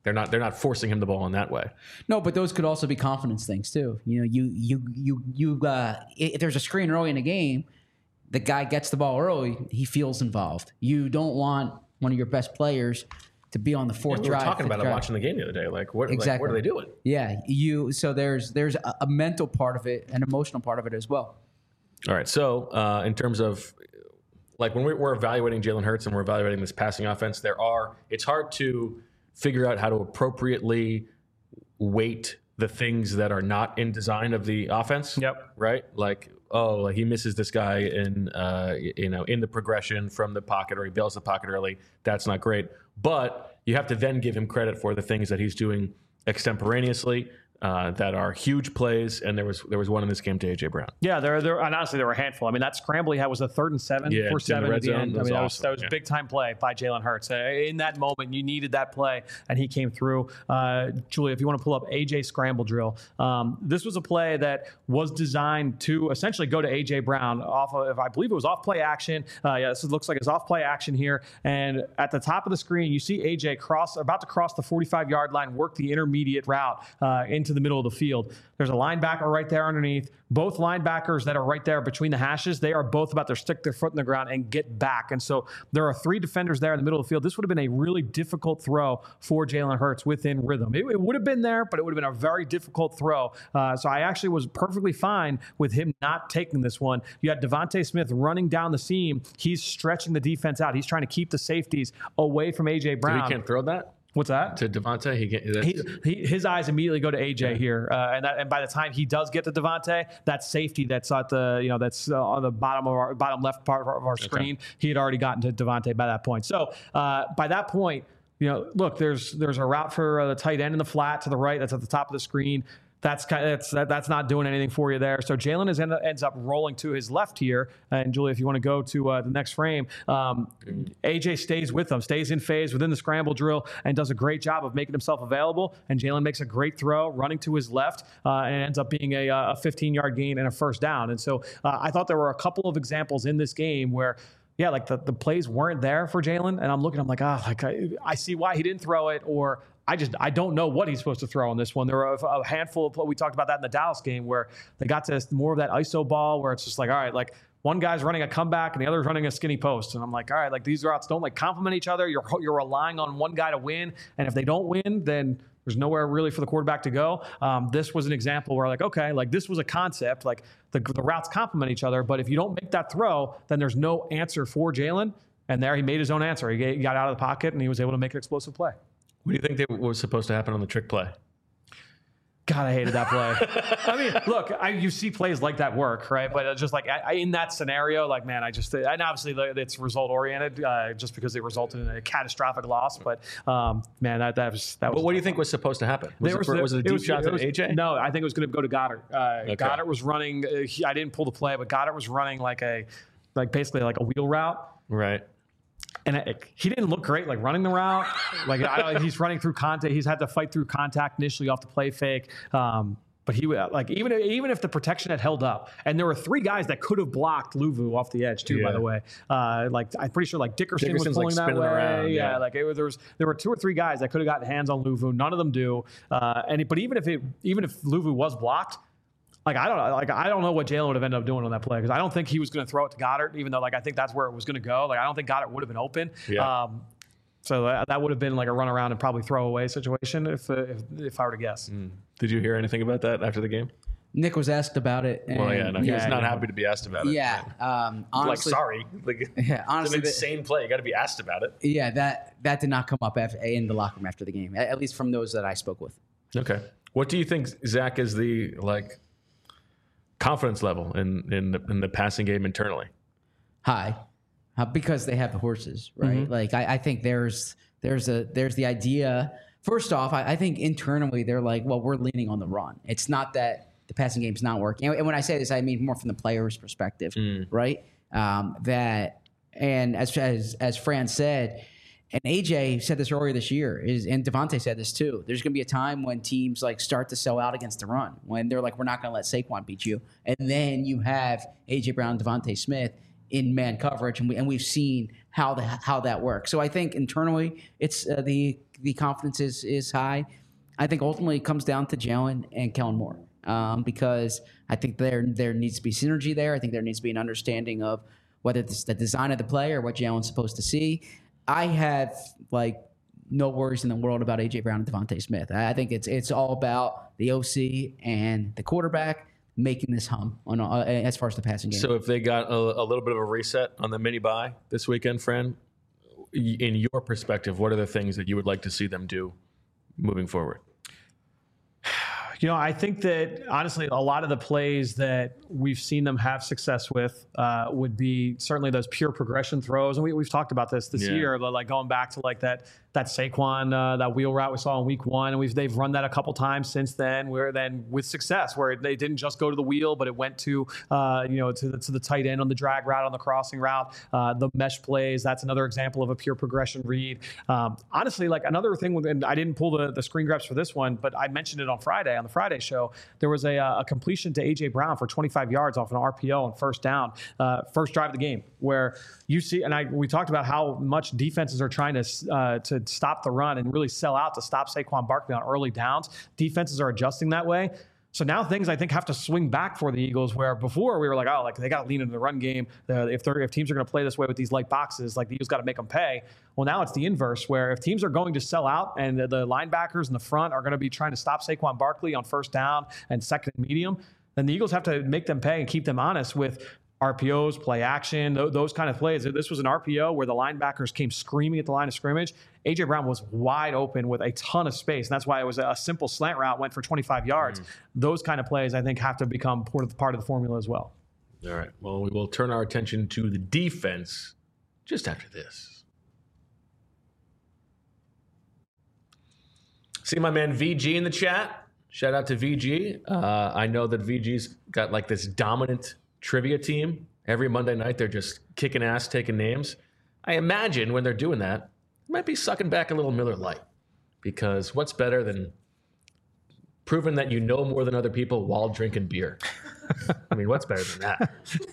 They're not they're not forcing him the ball in that way. No, but those could also be confidence things too. You know, you you you you uh, if there's a screen early in the game, the guy gets the ball early, he feels involved. You don't want one of your best players to be on the fourth Yeah, we were drive. talking about it drive. watching the game the other day. Like what Exactly. like, what are they doing? Yeah, you. So there's there's a, a mental part of it, an emotional part of it as well. All right. So uh, in terms of like when we're, we're evaluating Jalen Hurts and we're evaluating this passing offense, there are it's hard to figure out how to appropriately weight the things that are not in design of the offense. Yep. Right. Like, oh, like he misses this guy in, uh, you know, in the progression from the pocket, or he bails the pocket early. That's not great. But you have to then give him credit for the things that he's doing extemporaneously. Uh, that are huge plays, and there was there was one in this game to A J Brown. Yeah, there, there, and honestly, there were a handful. I mean, that scramble he had was a third and seven Yeah, in for the seven red at the zone. end. That I was mean, that was, awesome. that was Yeah. a big time play by Jalen Hurts. Uh, in that moment, you needed that play, and he came through. Uh, Julia, if you want to pull up A J scramble drill, um, this was a play that was designed to essentially go to A J Brown off of, if I believe it was off play action. Uh, yeah, this looks like it's off play action here. And at the top of the screen, you see A J cross, about to cross the forty-five yard line, work the intermediate route uh, into the middle of the field. There's a linebacker right there underneath. Both linebackers that are right there between the hashes, they are both about to stick their foot in the ground and get back. And so there are three defenders there in the middle of the field. This would have been a really difficult throw for Jalen Hurts within rhythm. It, it would have been there, but it would have been a very difficult throw. Uh, so I actually was perfectly fine with him not taking this one. You had Devontae Smith running down the seam. He's stretching the defense out. He's trying to keep the safeties away from A J Brown. So he can't throw that What's that? to Devontae. He can't. He, he, his eyes immediately go to A J here, uh, and that, and by the time he does get to Devontae, that safety that's at the you know that's uh, on the bottom of our bottom left part of our, of our screen, he had already gotten to Devontae by that point. So uh, by that point, you know, look, there's there's a route for uh, the tight end in the flat to the right. That's at the top of the screen. That's kind of, that's that, that's not doing anything for you there. So Jalen is end, ends up rolling to his left here. And Julia, if you want to go to uh, the next frame, um, A J stays with them, stays in phase within the scramble drill, and does a great job of making himself available. And Jalen makes a great throw, running to his left, uh, and it ends up being a, a fifteen-yard gain and a first down. And so uh, I thought there were a couple of examples in this game where, yeah, like the, the plays weren't there for Jalen, and I'm looking, I'm like, ah, oh, like I, I see why he didn't throw it, or I just I don't know what he's supposed to throw on this one. There were a, a handful of we talked about that in the Dallas game where they got to more of that I S O ball where it's just like, all right, like one guy's running a comeback and the other's running a skinny post, and I'm like, all right, like these routes don't like complement each other. You're you're relying on one guy to win, and if they don't win, then there's nowhere really for the quarterback to go. Um, this was an example where like, okay, like this was a concept, like the, the routes complement each other, but if you don't make that throw, then there's no answer for Jalen. And there he made his own answer. He got out of the pocket and he was able to make an explosive play. What do you think they, what was supposed to happen on the trick play? God, I hated that play. I mean, look, I, you see plays like that work, right? But it's just like I, I, in that scenario, like, man, I just, and obviously it's result oriented uh, just because it resulted in a catastrophic loss. But um, man, that, that was, that was. But what do you think was supposed to happen? Was, it, was, was it a deep was, shot to was, A J? No, I think it was going to go to Goddard. Uh, Okay. Goddard was running, uh, he, I didn't pull the play, but Goddard was running like a, like basically like a wheel route. Right. And it, he didn't look great, like running the route. Like I don't, he's running through contact. He's had to fight through contact initially off the play fake. Um, But he like even even if the protection had held up, and there were three guys that could have blocked Luvu off the edge too. Yeah. By the way, uh, like I'm pretty sure like Dickerson was Dickerson's, pulling like, that spinning way. around, yeah. yeah. like it, there was there were two or three guys that could have gotten hands on Luvu. None of them do. Uh, and it, but even if it even if Luvu was blocked, like I don't know, like I don't know what Jalen would have ended up doing on that play because I don't think he was going to throw it to Goddard, even though like I think that's where it was going to go. Like I don't think Goddard would have been open. Yeah. Um, So that, that would have been like a run around and probably throw away situation if uh, if, if I were to guess. Mm. Did you hear anything about that after the game? Nick was asked about it. And Well, yeah, no, he was Yeah, not yeah. happy to be asked about it. Yeah. Um, honestly, like, sorry. Like, Yeah, it's honestly, an the- insane play. You got to be asked about it. yeah, that that did not come up after, in the locker room after the game, at, at least from those that I spoke with. Okay. What do you think, Zach, is the like confidence level in in the, in the passing game internally? High, uh, because they have the horses, right? Mm-hmm. Like I, I think there's there's a there's the idea. First off, I, I think internally they're like, well, we're leaning on the run. It's not that the passing game's not working. And, and when I say this, I mean more from the player's perspective, right? Um, that and as as as Fran said, and A J said this earlier this year, is and Devontae said this too. There's going to be a time when teams like start to sell out against the run, when they're like, we're not going to let Saquon beat you, and then you have A J Brown, Devontae Smith in man coverage, and we and we've seen how the how that works. So I think internally, it's uh, the the confidence is is high. I think ultimately it comes down to Jalen and Kellen Moore, um, because I think there there needs to be synergy there. I think there needs to be an understanding of whether it's the design of the play or what Jalen's supposed to see. I have like no worries in the world about A J Brown and Devontae Smith. I think it's it's all about the O C and the quarterback making this hum on uh, as far as the passing game. So if they got a, a little bit of a reset on the mini bye this weekend, friend, in your perspective, what are the things that you would like to see them do moving forward? You know, I think that honestly, a lot of the plays that we've seen them have success with uh, would be certainly those pure progression throws. And we, we've talked about this this Yeah. year, but like going back to like that that Saquon, uh, that wheel route we saw in week one. And we've they've run that a couple times since then, where then with success, where they didn't just go to the wheel, but it went to, uh, you know, to the, to the tight end on the drag route, on the crossing route, uh, the mesh plays. That's another example of a pure progression read. Um, honestly, like another thing, with, and I didn't pull the, the screen grabs for this one, but I mentioned it on Friday, on the Friday show. There was a, a completion to A J Brown for twenty-five yards off an R P O on first down, uh, first drive of the game, where you see, and I we talked about how much defenses are trying to uh, to stop the run and really sell out to stop Saquon Barkley on early downs. Defenses are adjusting that way. So now things, I think, have to swing back for the Eagles, where before we were like, oh, like they got to lean into the run game. Uh, if they're, if teams are going to play this way with these light boxes, like the Eagles got to make them pay. Well, now it's the inverse, where if teams are going to sell out and the, the linebackers in the front are going to be trying to stop Saquon Barkley on first down and second and medium, then the Eagles have to make them pay and keep them honest with R P Os, play action, th- those kind of plays. This was an R P O where the linebackers came screaming at the line of scrimmage. A J Brown was wide open with a ton of space, and that's why it was a simple slant route, went for twenty-five yards. Mm. Those kind of plays, I think, have to become part of, part of the formula as well. All right. Well, we will turn our attention to the defense just after this. See my man V G in the chat. Shout out to V G. Uh, I know that V G's got like this dominant trivia team. Every Monday night, they're just kicking ass, taking names. I imagine when they're doing that, they might be sucking back a little Miller Lite, because what's better than proving that you know more than other people while drinking beer? I mean, what's better than that?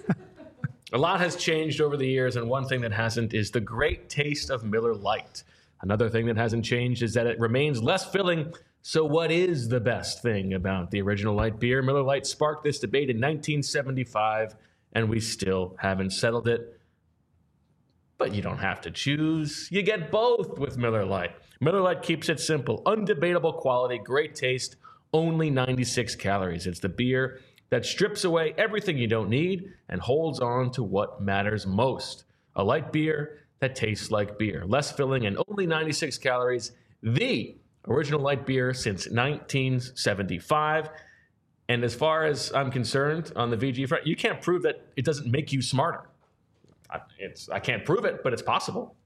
A lot has changed over the years, and one thing that hasn't is the great taste of Miller Lite. Another thing that hasn't changed is that it remains less filling. So what is the best thing about the original light beer? Miller Lite sparked this debate in nineteen seventy-five, and we still haven't settled it. But you don't have to choose. You get both with Miller Lite. Miller Lite keeps it simple. Undebatable quality, great taste, only ninety-six calories. It's the beer that strips away everything you don't need and holds on to what matters most. A light beer that tastes like beer. Less filling and only ninety-six calories. The original light beer since nineteen seventy-five. And as far as I'm concerned, on the V G front, you can't prove that it doesn't make you smarter. I, it's, I can't prove it, but it's possible.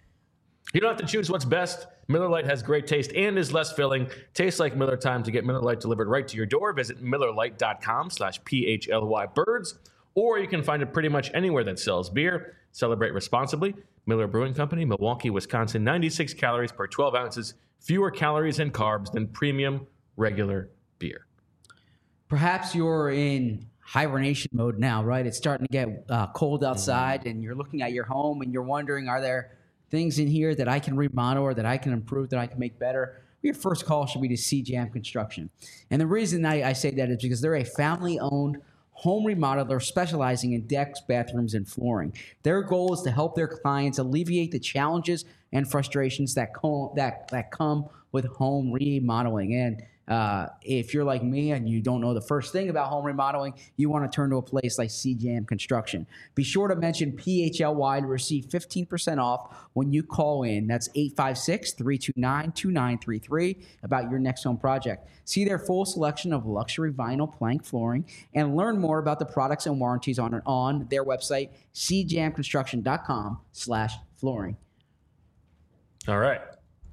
You don't have to choose what's best. Miller Lite has great taste and is less filling. Tastes like Miller time. To get Miller Lite delivered right to your door, visit miller lite dot com slash P H L Y birds. Or you can find it pretty much anywhere that sells beer. Celebrate responsibly. Miller Brewing Company, Milwaukee, Wisconsin. ninety-six calories per twelve ounces. Fewer calories and carbs than premium regular beer. Perhaps you're in hibernation mode now, right? It's starting to get uh, cold outside, and you're looking at your home and you're wondering, are there things in here that I can remodel or that I can improve, that I can make better? Your first call should be to C Jam Construction. And the reason I, I say that is because they're a family-owned home remodeler specializing in decks, bathrooms, and flooring. Their goal is to help their clients alleviate the challenges and frustrations that come, that, that come with home remodeling. And uh, if you're like me and you don't know the first thing about home remodeling, you want to turn to a place like C Jam Construction. Be sure to mention P H L Y to receive fifteen percent off when you call in. That's eight five six, three two nine, two nine three three about your next home project. See their full selection of luxury vinyl plank flooring and learn more about the products and warranties on, on their website, c jam construction dot com slash flooring. All right.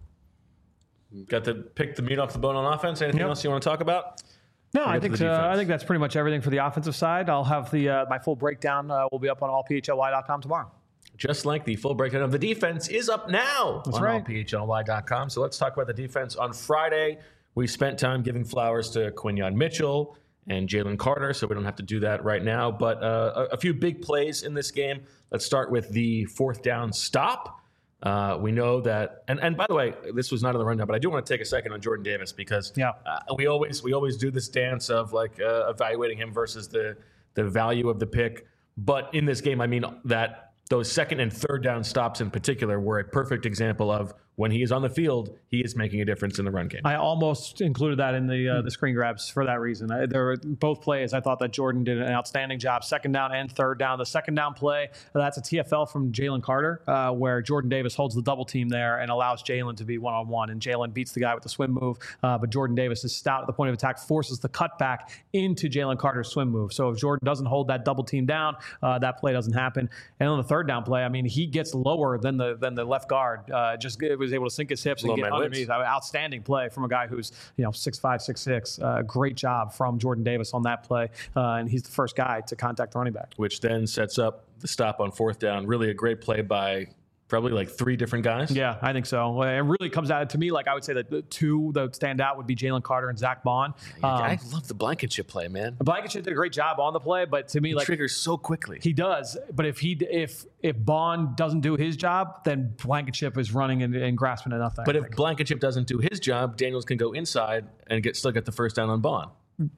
Got to pick the meat off the bone on offense. Anything Yep. else you want to talk about? No, We'll I get to think the uh, I defense. think that's pretty much everything for the offensive side. I'll have the uh, my full breakdown uh, will be up on all P H L Y dot com tomorrow. Just like the full breakdown of the defense is up now That's on right. all P H L Y dot com. So let's talk about the defense. On Friday, we spent time giving flowers to Quinyon Mitchell and Jalen Carter, so we don't have to do that right now. But uh, a, a few big plays in this game. Let's start with the fourth down stop. Uh, we know that, and, and by the way, this was not in the rundown, but I do want to take a second on Jordan Davis because yeah. uh, we always we always do this dance of like uh, evaluating him versus the the value of the pick. But in this game, I mean that those second and third down stops in particular were a perfect example of when he is on the field, he is making a difference in the run game. I almost included that in the uh, the screen grabs for that reason. I, there were both plays. I thought that Jordan did an outstanding job, second down and third down. The second down play, that's a T F L from Jalen Carter, uh, where Jordan Davis holds the double team there and allows Jalen to be one-on-one. And Jalen beats the guy with the swim move, uh, but Jordan Davis is stout at the point of attack, forces the cutback into Jalen Carter's swim move. So if Jordan doesn't hold that double team down, uh, that play doesn't happen. And on the third down play, I mean, he gets lower than the than the left guard. Uh, just it was able to sink his hips and Low get man underneath. I mean, outstanding play from a guy who's, you know, six five, six six. Uh, great job from Jordan Davis on that play. Uh, and he's the first guy to contact the running back. Which then sets up the stop on fourth down. Really a great play by probably like three different guys. Yeah, I think so. It really comes out to me, like I would say that the two that would stand out would be Jalen Carter and Zach Bond. Um, I love the Blankenship play, man. Blankenship did a great job on the play, but to me, He like triggers so quickly. he does. But if he if if Bond doesn't do his job, then Blankenship is running and, and grasping at nothing. But if Blankenship doesn't do his job, Daniels can go inside and get still get the first down on Bond.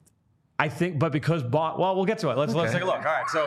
I think, but because Bond, well, we'll get to it. Let's Okay. let's take a look. All right, so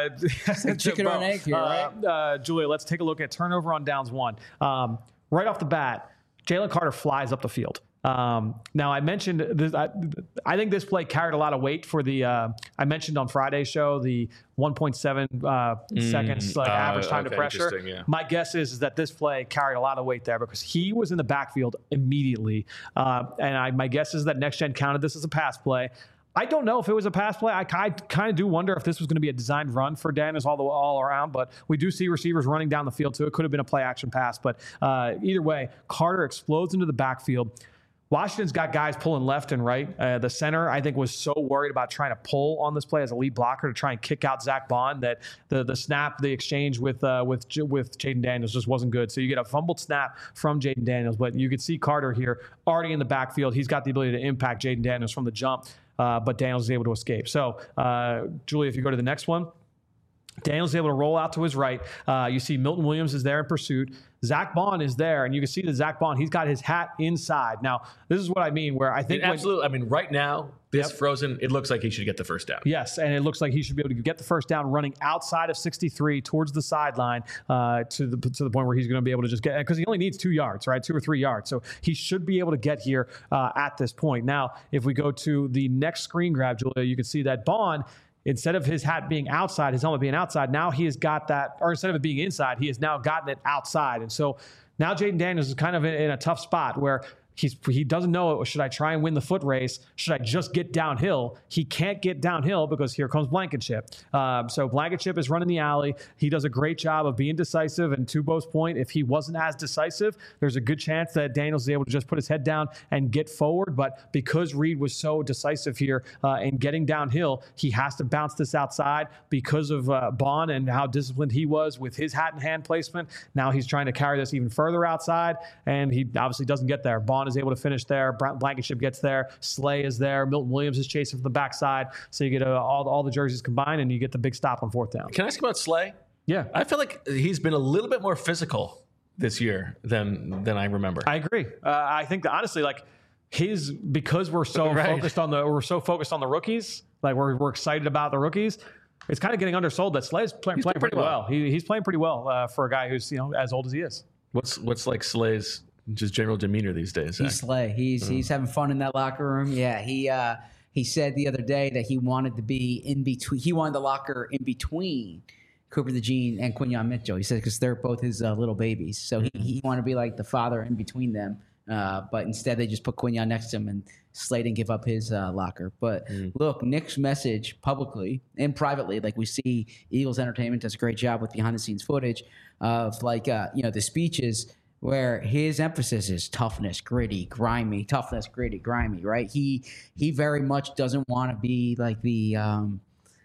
uh, chicken or an egg here, uh, right? uh, Julia, let's take a look at turnover on downs one. Um, right off the bat, Jalen Carter flies up the field. Um, now I mentioned this, I, I think this play carried a lot of weight for the. Uh, I mentioned on Friday's show the one point seven uh, seconds like uh, average time to okay, pressure. interesting, yeah. My guess is, is that this play carried a lot of weight there because he was in the backfield immediately, uh, and I, my guess is that Next Gen counted this as a pass play. I don't know if it was a pass play. I, I kind of do wonder if this was going to be a designed run for Daniels all the all around, but we do see receivers running down the field too. It could have been a play action pass, but uh, either way, Carter explodes into the backfield. Washington's got guys pulling left and right. Uh, the center, I think, was so worried about trying to pull on this play as a lead blocker to try and kick out Zach Bond that the the snap, the exchange with uh, with with Jaden Daniels just wasn't good. So you get a fumbled snap from Jaden Daniels, but you could see Carter here already in the backfield. He's got the ability to impact Jaden Daniels from the jump, uh, but Daniels is able to escape. So, uh, Julie, if you go to the next one. Daniels is able to roll out to his right. Uh, you see Milton Williams is there in pursuit. Zach Bond is there, and you can see that Zach Bond, he's got his hat inside. Now, this is what I mean, where I think... It absolutely. I mean, right now, this Yep. frozen, it looks like he should get the first down. Yes, and it looks like he should be able to get the first down running outside of sixty-three towards the sideline uh, to the to the point where he's going to be able to just get... Because he only needs two yards, right? Two or three yards. So he should be able to get here uh, at this point. Now, if we go to the next screen grab, Julia, you can see that Bond... Instead of his hat being outside, his helmet being outside, now he has got that, or instead of it being inside, he has now gotten it outside. And so now Jaden Daniels is kind of in, in a tough spot where he's he doesn't know, should I try and win the foot race? Should I just get downhill? He can't get downhill because here comes Blankenship. Um, so Blankenship is running the alley. He does a great job of being decisive. And to Bo's point, if he wasn't as decisive, there's a good chance that Daniels is able to just put his head down and get forward. But because Reed was so decisive here uh, in getting downhill, he has to bounce this outside because of uh, Bond and how disciplined he was with his hat and hand placement. Now he's trying to carry this even further outside, and he obviously doesn't get there. Bond is able to finish there. Blankenship gets there. Slay is there. Milton Williams is chasing from the backside. So you get uh, all, all the jerseys combined, and you get the big stop on fourth down. Can I ask about Slay? Yeah. I feel like he's been a little bit more physical this year than than I remember. I agree. Uh, I think that honestly, like his because we're so Right. focused on the we're so focused on the rookies, like we're we're excited about the rookies. It's kind of getting undersold that Slay's play, playing playing pretty pretty well. well. He, he's playing pretty well uh, for a guy who's you know as old as he is. What's what's like Slay's just general demeanor these days? He's Zach? Slay. He's he's having fun in that locker room. Yeah, he uh, he said the other day that he wanted to be in between. He wanted the locker in between Cooper DeJean and Quinyon Mitchell. He said because they're both his uh, little babies, so he, he wanted to be like the father in between them. Uh, but instead, they just put Quinyon next to him, and Slay didn't give up his uh, locker. But Mm. look, Nick's message publicly and privately, like we see, Eagles Entertainment does a great job with behind-the-scenes footage of like uh, you know the speeches. Where his emphasis is toughness, gritty, grimy, toughness, gritty, grimy, right? He he very much doesn't want to be like the um,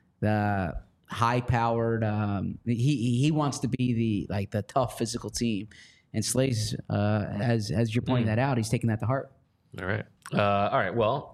the high-powered. Um, he he wants to be the like the tough physical team, and Slay's uh, as as you're pointing Mm. that out, he's taking that to heart. All right. Uh, all right. Well,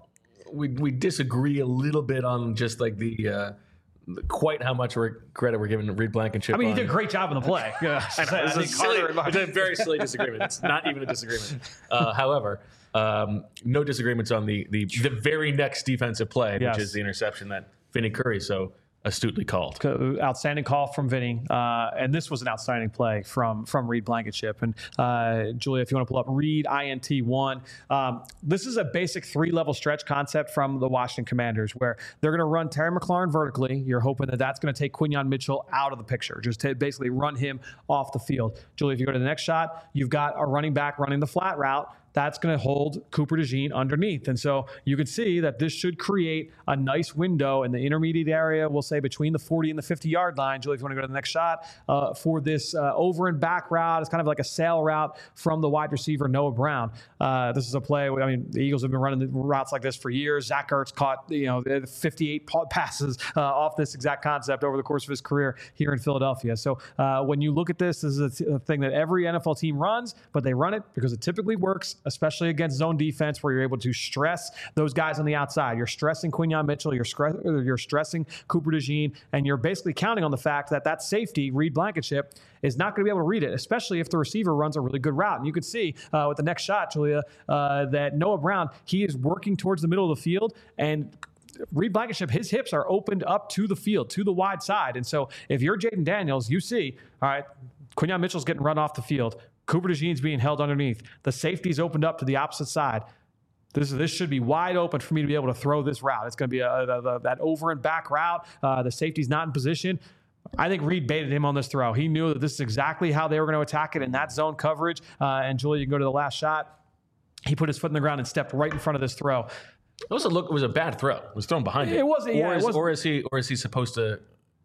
we we disagree a little bit on just like the. Uh, Quite how much we're, credit we're giving to Reed Blankenship. I mean, on. he did a great job in the play. Yeah. It's, a silly, it's a very silly disagreement. It's not even a disagreement. Uh, however, um, no disagreements on the, the the very next defensive play, Yes. which is the interception that Vinny Curry so astutely called. Outstanding call from Vinny, uh, and this was an outstanding play from from Reed Blankenship. And uh, Julia, if you want to pull up Reed I N T one, um, this is a basic three-level stretch concept from the Washington Commanders, where they're going to run Terry McLaurin vertically. You're hoping that that's going to take Quinyon Mitchell out of the picture, just to basically run him off the field. Julia, if you go to the next shot, you've got a running back running the flat route. That's going to hold Cooper DeJean underneath. And so you can see that this should create a nice window in the intermediate area, we'll say between the forty and the fifty-yard line. Julie, if you want to go to the next shot, uh, for this uh, over and back route. It's kind of like a sail route from the wide receiver, Noah Brown. Uh, this is a play, I mean, the Eagles have been running the routes like this for years. Zach Ertz caught, you know, fifty-eight passes uh, off this exact concept over the course of his career here in Philadelphia. So uh, when you look at this, this is a, t- a thing that every N F L team runs, but they run it because it typically works, especially against zone defense, where you're able to stress those guys on the outside. You're stressing Quinyon Mitchell, you're, scre- you're stressing Cooper DeJean, and you're basically counting on the fact that that safety, Reed Blankenship, is not going to be able to read it, especially if the receiver runs a really good route. And you can see uh, with the next shot, Julia, uh, that Noah Brown, he is working towards the middle of the field, and Reed Blankenship, his hips are opened up to the field, to the wide side. And so if you're Jaden Daniels, you see, all right, Quinyon Mitchell's getting run off the field. Cooper DeJean's being held underneath. The safety's opened up to the opposite side. This this should be wide open for me to be able to throw this route. It's going to be a, a, a, that over and back route. Uh, the safety's not in position. I think Reed baited him on this throw. He knew that this is exactly how they were going to attack it in that zone coverage. Uh, and Julie, you can go to the last shot. He put his foot in the ground and stepped right in front of this throw. It was a look. It was a bad throw. It was thrown behind him. It wasn't. Yeah, or, is, it wasn't. or is he? Or is he supposed to?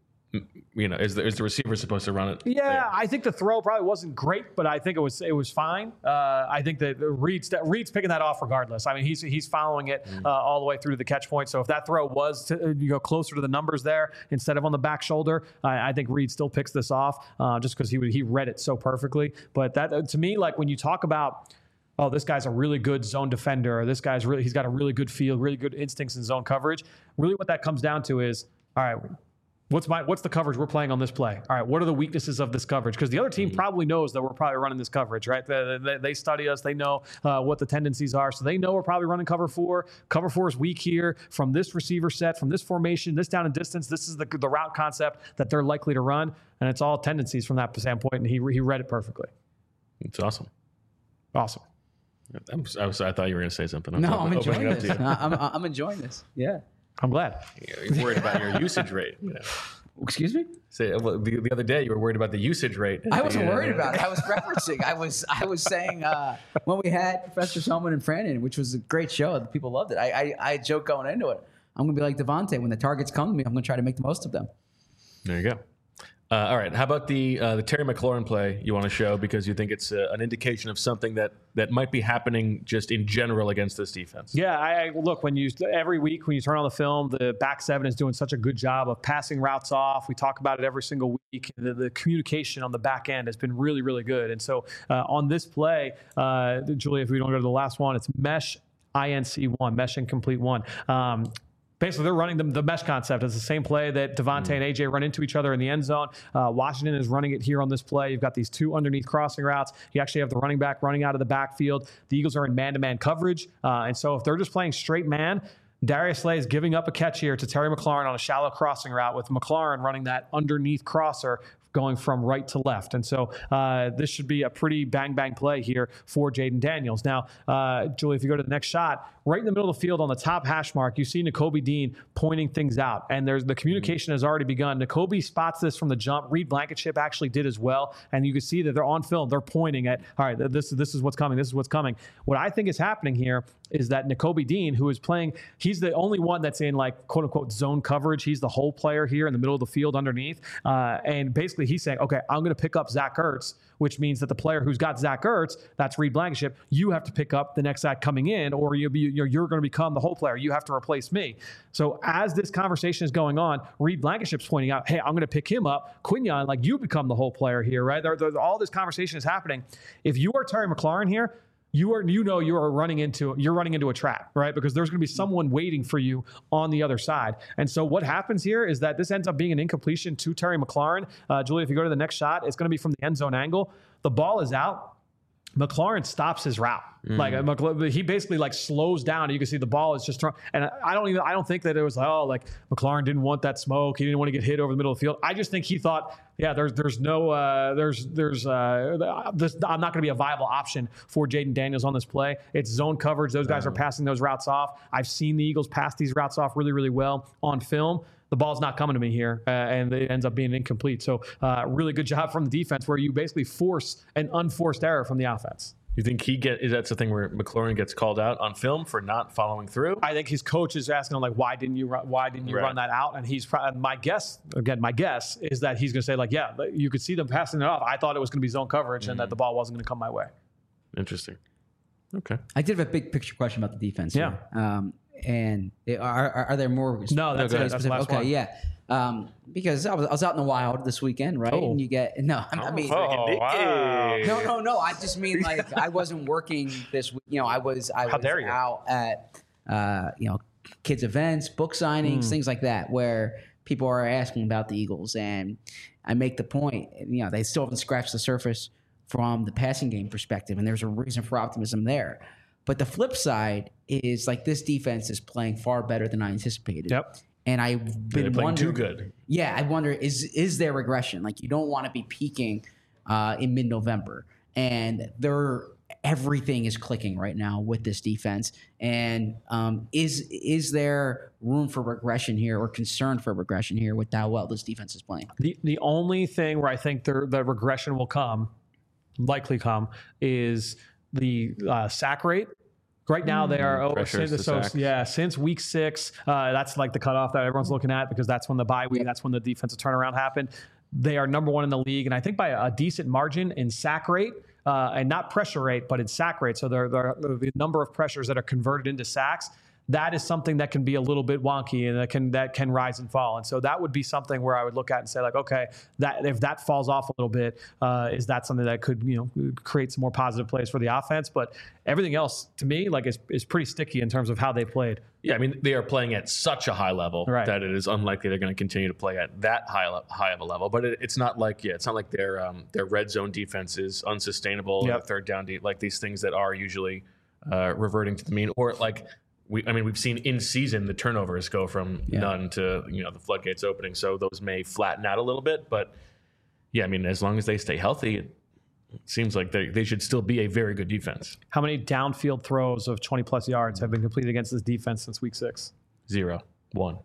You know, is the, is the receiver supposed to run it? Yeah, there? I think the throw probably wasn't great, but I think it was it was fine. Uh, I think that Reed's that Reed's picking that off regardless. I mean, he's he's following it uh, all the way through to the catch point. So if that throw was to you go closer to the numbers there instead of on the back shoulder, I, I think Reed still picks this off uh, just because he he read it so perfectly. But that to me, like when you talk about, oh, this guy's a really good zone defender, or this guy's really he's got a really good feel, really good instincts in zone coverage. Really, what that comes down to is, all right, What's my what's the coverage we're playing on this play? All right, what are the weaknesses of this coverage? Because the other team probably knows that we're probably running this coverage, right? They, they, they study us. They know uh, what the tendencies are. So they know we're probably running cover four. Cover four is weak here from this receiver set, from this formation, this down and distance. This is the, the route concept that they're likely to run. And it's all tendencies from that standpoint. And he, he read it perfectly. It's awesome. Awesome. I'm, I, was, I thought you were going to say something. I'm No, open, I'm enjoying opening it up this. to you. I'm, I'm enjoying this. Yeah. I'm glad. You're worried about your usage rate. You know. Excuse me? Say, well, the, the other day you were worried about the usage rate. I wasn't The, uh, worried about it. I was referencing. I was I was saying uh, when we had Professor Selman and Franon, which was a great show. The people loved it. I, I, I joked going into it. I'm going to be like Devontae. When the targets come to me, I'm going to try to make the most of them. There you go. Uh, all right. How about the uh, the Terry McLaurin play you want to show because you think it's uh, an indication of something that, that might be happening just in general against this defense? Yeah, I, I look when you every week when you turn on the film, the back seven is doing such a good job of passing routes off. We talk about it every single week. The, the communication on the back end has been really, really good. And so uh, on this play, uh, Julia, if we don't go to the last one, it's mesh I N C one, mesh incomplete one. Um, Basically, they're running the, the mesh concept. It's the same play that Devontae mm. and A J run into each other in the end zone. Uh, Washington is running it here on this play. You've got these two underneath crossing routes. You actually have the running back running out of the backfield. The Eagles are in man-to-man coverage. Uh, and so if they're just playing straight man, Darius Slay is giving up a catch here to Terry McLaurin on a shallow crossing route with McLaurin running that underneath crosser going from right to left. And so uh, this should be a pretty bang-bang play here for Jaden Daniels. Now, uh, Julie, if you go to the next shot, right in the middle of the field on the top hash mark, you see Nakobe Dean pointing things out. And there's the communication has already begun. Nakobe spots this from the jump. Reed Blankenship actually did as well. And you can see that they're on film. They're pointing at, all right, this, this is what's coming. This is what's coming. What I think is happening here is that Nakobe Dean, who is playing, he's the only one that's in like quote unquote zone coverage. He's the whole player here in the middle of the field underneath. Uh, and basically he's saying, okay, I'm going to pick up Zach Ertz, which means that the player who's got Zach Ertz, that's Reed Blankenship, you have to pick up the next guy coming in, or you'll be, you're, you're going to become the whole player. You have to replace me. So as this conversation is going on, Reed Blankenship's pointing out, hey, I'm going to pick him up. Quinyon, like you become the whole player here, right? There, there, all this conversation is happening. If you are Terry McLaurin here, you are, you know, you are running into, you're running into a trap, right? Because there's going to be someone waiting for you on the other side. And so what happens here is that this ends up being an incompletion to Terry McLaurin. Uh, Julie, if you go to the next shot, it's going to be from the end zone angle. The ball is out. McLaurin stops his route. Mm. Like he basically like slows down. And you can see the ball is just thrown. And I don't even, I don't think that it was like, oh, like McLaurin didn't want that smoke. He didn't want to get hit over the middle of the field. I just think he thought, yeah, there's, there's no, uh, there's, there's, uh, this, I'm not going to be a viable option for Jaden Daniels on this play. It's zone coverage. Those guys are passing those routes off. I've seen the Eagles pass these routes off really, really well on film. The ball's not coming to me here, uh, and it ends up being incomplete. So uh, really good job from the defense where you basically force an unforced error from the offense. You think he get is that the thing where McLaurin gets called out on film for not following through? I think his coach is asking him like, why didn't you run, why didn't you right. run that out? And he's probably, my guess again, my guess is that he's going to say like, yeah, you could see them passing it off. I thought it was going to be zone coverage mm-hmm. and that the ball wasn't going to come my way. Interesting. Okay. I did have a big picture question about the defense. Yeah. Here. Um, and are, are are there more? No, that's it. That's the last okay, one. yeah. Um, because I was, I was out in the wild this weekend, right? Oh. And you get no, I mean, oh, wow. no, no, no. I just mean like I wasn't working this week. You know, I was I How was dare you. out at uh, you know kids events, book signings, mm. things like that, where people are asking about the Eagles, and I make the point. You know, they still haven't scratched the surface from the passing game perspective, and there's a reason for optimism there. But the flip side is like this defense is playing far better than I anticipated. Yep. And I've been They're playing wondering, too good. Yeah, I wonder is is there regression? Like you don't want to be peaking uh, in mid-November, and there everything is clicking right now with this defense. And um, is is there room for regression here, or concern for regression here with how well this defense is playing? The the only thing where I think the the regression will come, likely come, is the uh, sack rate. Right now they are oh, since, so, yeah since week six. Uh, that's like the cutoff that everyone's looking at because that's when the bye week. Yep. That's when the defensive turnaround happened. They are number one in the league, and I think by a decent margin in sack rate uh, and not pressure rate, but in sack rate. So they're, they're, the number of pressures that are converted into sacks. That is something that can be a little bit wonky and that can that can rise and fall. And so that would be something where I would look at and say like, okay, that if that falls off a little bit, uh, is that something that could you know create some more positive plays for the offense? But everything else to me like is is pretty sticky in terms of how they played. Yeah, I mean they are playing at such a high level right. that it is unlikely they're going to continue to play at that high high of a level. But it, it's not like yeah, it's not like their um, their red zone defense is unsustainable. Yep. Or third down deep, like these things that are usually uh, reverting to the mean or like. We, I mean, we've seen in season the turnovers go from yeah. none to you know the floodgates opening, so those may flatten out a little bit. But yeah, I mean, as long as they stay healthy, it seems like they they should still be a very good defense. How many downfield throws of twenty plus yards have been completed against this defense since week six? Zero, one,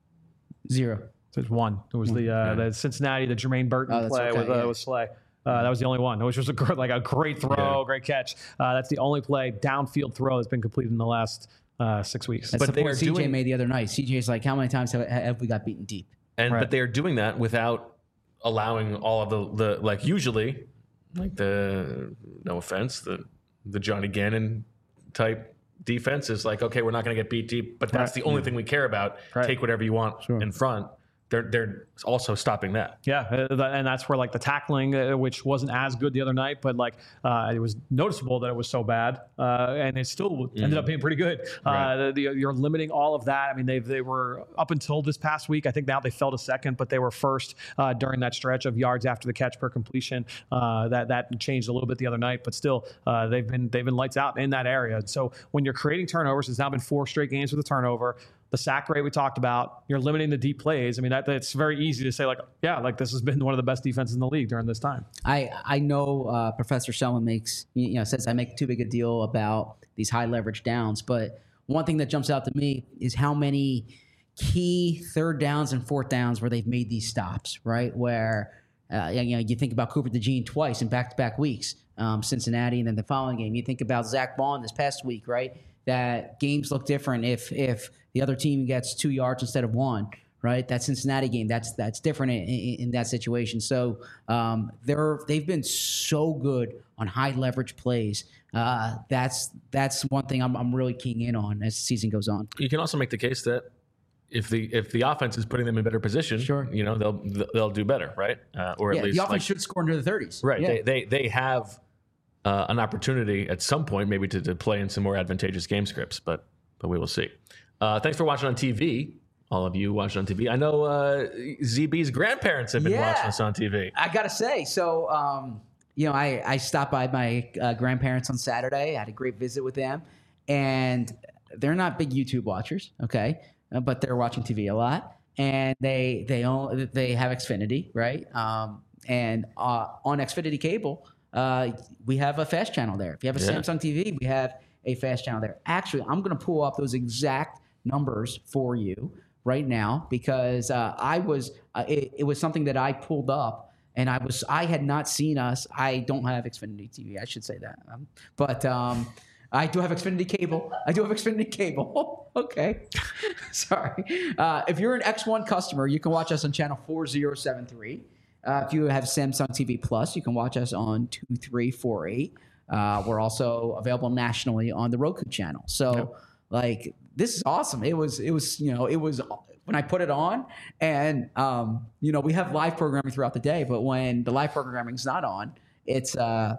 zero. So it's one. It was the uh, yeah. the Cincinnati, the Jermaine Burton oh, play okay, with, uh, yeah. with Slay. Uh, that was the only one, which was a gr- like a great throw, yeah. great catch. Uh, that's the only play downfield throw that's been completed in the last. Uh, six weeks. That's but the they point are C J doing, made the other night. C J's like, how many times have, have we got beaten deep? And right. but they are doing that without allowing all of the, the like usually, like the no offense, the the Johnny Gannon type defense is like, okay, we're not going to get beat deep, but that's right. the only yeah. thing we care about. Right. Take whatever you want sure. in front. They're they're also stopping that. Yeah, and that's where like the tackling, uh, which wasn't as good the other night, but like uh, it was noticeable that it was so bad, uh, and it still mm. ended up being pretty good. Right. Uh, the, the, you're limiting all of that. I mean, they they were up until this past week. I think now they fell to second, but they were first uh, during that stretch of yards after the catch per completion. Uh, that that changed a little bit the other night, but still uh, they've been they've been lights out in that area. So when you're creating turnovers, it's now been four straight games with a turnover. The sack rate we talked about, you're limiting the deep plays. I mean, that that's very easy to say like, yeah, like this has been one of the best defenses in the league during this time. I I know uh, Professor Selman makes, you know, says I make too big a deal about these high leverage downs, but one thing that jumps out to me is how many key third downs and fourth downs where they've made these stops, right? Where, uh, you know, you think about Cooper DeJean twice in back-to-back weeks, um, Cincinnati, and then the following game. You think about Zach Bond this past week, right? That games look different if if the other team gets two yards instead of one, right? That Cincinnati game, that's that's different in, in, in that situation. So um, they're they've been so good on high leverage plays. Uh, that's that's one thing I'm I'm really keying in on as the season goes on. You can also make the case that if the if the offense is putting them in better position, sure. you know they'll they'll do better, right? Uh, or yeah, at least the offense like, should score into the thirties, right? Yeah. They they they have. uh, an opportunity at some point, maybe to, to play in some more advantageous game scripts, but but we will see. Uh, thanks for watching on T V. All of you watching on T V. I know uh, Z B's grandparents have been Yeah. watching us on T V. I gotta say, so um, you know, I, I stopped by my uh, grandparents on Saturday. I had a great visit with them, and they're not big YouTube watchers, okay, uh, but they're watching T V a lot, and they they own they have Xfinity, right? Um, and uh, on Xfinity cable, uh, we have a fast channel there. If you have a Yeah. Samsung T V, we have a fast channel there. Actually, I'm gonna pull up those exact numbers for you right now because uh, I was uh, it, it was something that I pulled up and I was I had not seen us. I don't have Xfinity T V. I should say that, um, but um, I do have Xfinity cable. I do have Xfinity cable. Okay, sorry. Uh, if you're an X one customer, you can watch us on channel four zero seven three. Uh, if you have Samsung T V Plus, you can watch us on two three four eight. Uh, we're also available nationally on the Roku channel. So. Yep. Like, this is awesome. It was, it was, you know, it was when I put it on and, um, you know, we have live programming throughout the day, but when the live programming is not on, it's, uh,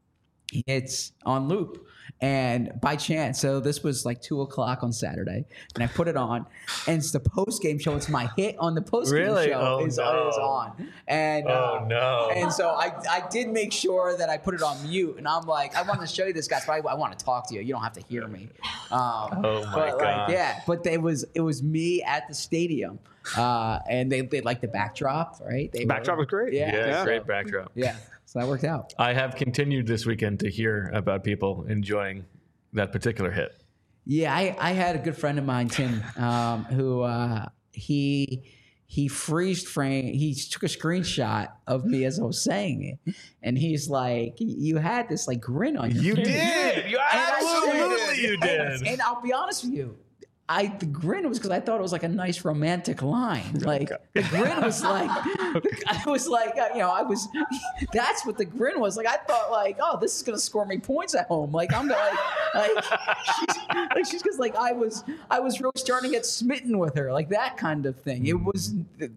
it's on loop. And by chance, so this was like two o'clock on Saturday, and I put it on, and it's the post game show. It's my hit on the post game Really? show Oh, is, no. is on, and Oh, uh, no. and so I I did make sure that I put it on mute, and I'm like, I want to show you this, guys, but I, I want to talk to you. You don't have to hear me. Um, Oh, my but gosh. Like, yeah, but it was it was me at the stadium, uh, and they they liked the backdrop, right? They Backdrop were, was great. Yeah, Yeah, so- great backdrop. Yeah, so that worked out. I have continued this weekend to hear about people enjoying that particular hit. Yeah, I, I had a good friend of mine, Tim, um, who uh, he he freeze frame. He took a screenshot of me as I was saying it, and he's like, "You had this like grin on your You face." did. You And I said- absolutely you did. And, and I'll be honest with you. I the grin was because I thought it was like a nice romantic line. Like the grin was like, I was like, uh, you know, I was. That's what the grin was like. I thought like, oh, this is gonna score me points at home. Like I'm like, like she's like she's because like I was, I was really starting to get smitten with her, like that kind of thing. It was.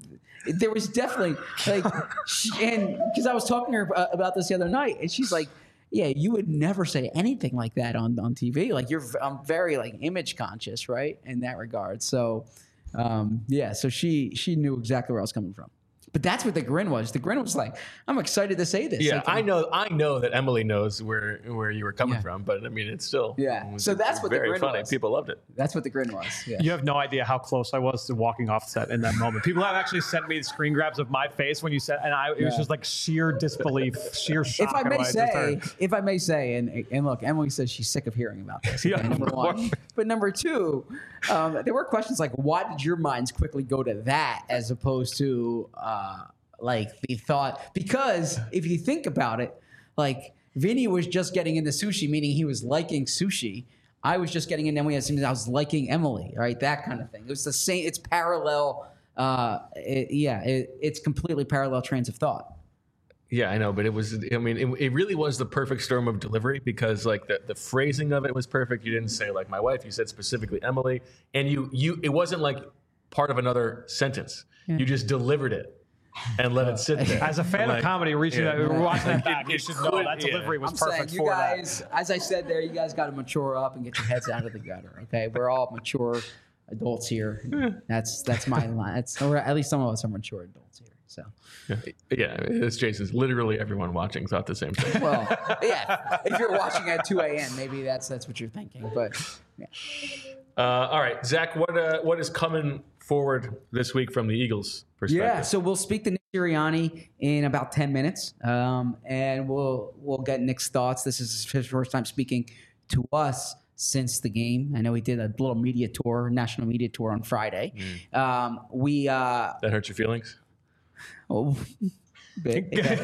There was definitely like, she, and because I was talking to her uh, about this the other night, and she's like. Yeah, you would never say anything like that on, on T V. Like you're, I'm very like image conscious, right, in that regard. So, um, yeah, so she she knew exactly where I was coming from. But that's what the grin was. The grin was like, I'm excited to say this. Yeah, Like, I know. I know that Emily knows where where you were coming Yeah. from, but I mean, it's still Yeah. it was So that's what the very grin funny. was. People loved it. That's what the grin was. Yeah. You have no idea how close I was to walking off set in that moment. People have actually sent me screen grabs of my face when you said, and I it was Yeah. just like sheer disbelief, sheer shock. If I at may what just say, heard. if I may say, and and look, Emily says she's sick of hearing about this. Yeah, okay, number of one, course. but number two, um, there were questions like, why did your minds quickly go to that as opposed to uh, like the thought? Because if you think about it, like Vinny was just getting into sushi, meaning he was liking sushi. I was just getting in, and we had something I was liking Emily, right? That kind of thing. It was the same. It's parallel. Uh, it, yeah, it, it's completely parallel trains of thought. Yeah, I know, but it was. I mean, it, it really was the perfect storm of delivery because, like, the, the phrasing of it was perfect. You didn't say like my wife. You said specifically Emily, and you you. It wasn't like part of another sentence. You just delivered it and let it sit there. As a fan Like, of comedy, reaching yeah. out, watching that back, It- you it should know could- that yeah. delivery was I'm perfect saying, you for guys, as I said there, you guys got to mature up and get your heads out of the gutter. Okay, we're all mature adults here. That's that's my line. That's or at least some of us are mature adults here. So, Yeah, it's Jason's. Literally everyone watching thought the same thing. well, yeah. If you're watching at two a.m., maybe that's that's what you're thinking. But yeah. Uh, all right, Zach, what uh, what is coming forward this week from the Eagles' perspective? Yeah, so we'll speak to Nick Sirianni in about ten minutes, um, and we'll we'll get Nick's thoughts. This is his first time speaking to us since the game. I know he did a little media tour, national media tour on Friday. Mm. Um, we uh, That hurt your feelings? oh, big,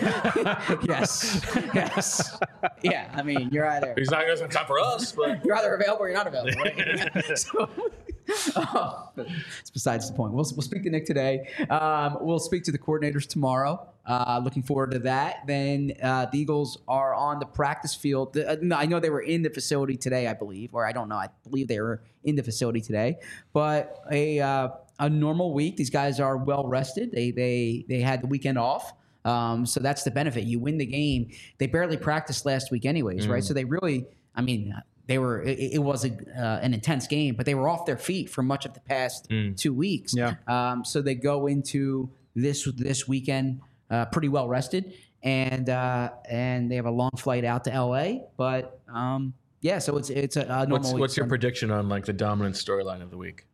yes, yes, yeah. I mean, you're either He's not going to have time for us, but you're either available or you're not available. Right? so, oh, but it's besides the point. We'll, we'll speak to Nick today. Um, we'll speak to the coordinators tomorrow. Uh, looking forward to that. Then uh, the Eagles are on the practice field. The, uh, no, I know they were in the facility today, I believe, or I don't know. I believe they were in the facility today. But a uh, a normal week. These guys are well rested. They they they had the weekend off. Um, so that's the benefit. You win the game. They barely practiced last week anyways, mm. right? So they really, I mean, they were, it, it was a, uh, an intense game, but they were off their feet for much of the past mm. two weeks. Yeah. Um, so they go into this, this weekend uh, pretty well rested, and, uh, and they have a long flight out to L A, but um, yeah, so it's, it's a, a normal What's, what's your prediction on like the dominant storyline of the week?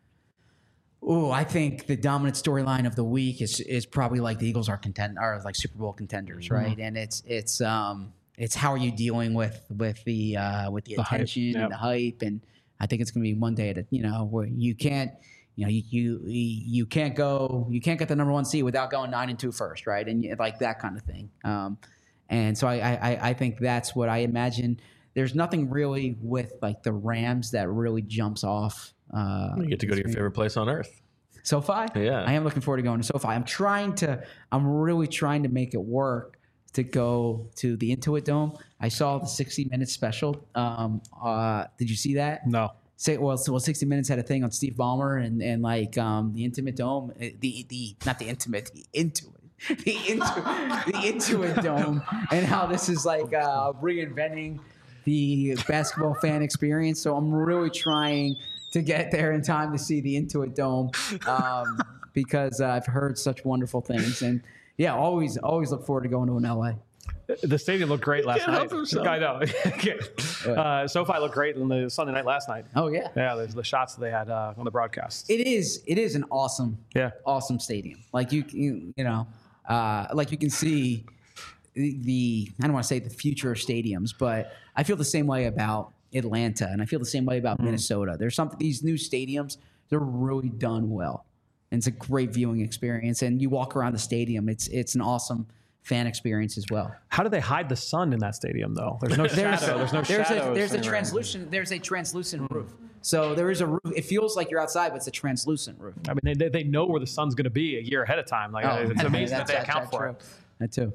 Oh, I think the dominant storyline of the week is is probably like the Eagles are contend are like Super Bowl contenders, mm-hmm. right? And it's it's um it's how are you dealing with with the uh, with the, the attention yep. and the hype, and I think it's going to be one day at a, you know where you can't you know you, you you can't go you can't get the number one seed without going nine and two first, right? And you, like that kind of thing. Um, and so I, I I think that's what I imagine. There's nothing really with like the Rams that really jumps off. Uh, you get to go to your favorite place on earth. SoFi? Yeah. I am looking forward to going to SoFi. I'm trying to, I'm really trying to make it work to go to the Intuit Dome. I saw the sixty minutes special. Um, uh, did you see that? No. Say, well, so, well, sixty minutes had a thing on Steve Ballmer and, and like um, the Intimate Dome, the, the, not the Intimate, the Intuit. The Intuit, the Intuit Dome, and how this is like uh, reinventing the basketball fan experience. So I'm really trying to get there in time to see the Intuit Dome um, because uh, I've heard such wonderful things. And yeah, always, always look forward to going to an L A. The stadium looked great last night. I know. uh, SoFi looked great on the Sunday night last night. Oh yeah, yeah. There's the shots that they had uh, on the broadcast. It is, it is an awesome, yeah, awesome stadium. Like you, you, you know, uh, like you can see the, the. I don't want to say the future of stadiums, but I feel the same way about Atlanta, and I feel the same way about mm. Minnesota. There's something, these new stadiums, they're really done well, and it's a great viewing experience. And you walk around the stadium, it's it's an awesome fan experience as well. How do they hide the sun in that stadium though? There's no there's, shadow. There's no there's shadow. A, there's a translucent. There's a translucent roof. So there is a roof. It feels like you're outside, but it's a translucent roof. I mean, they they know where the sun's going to be a year ahead of time. Like oh, it's amazing that they account for it. That too.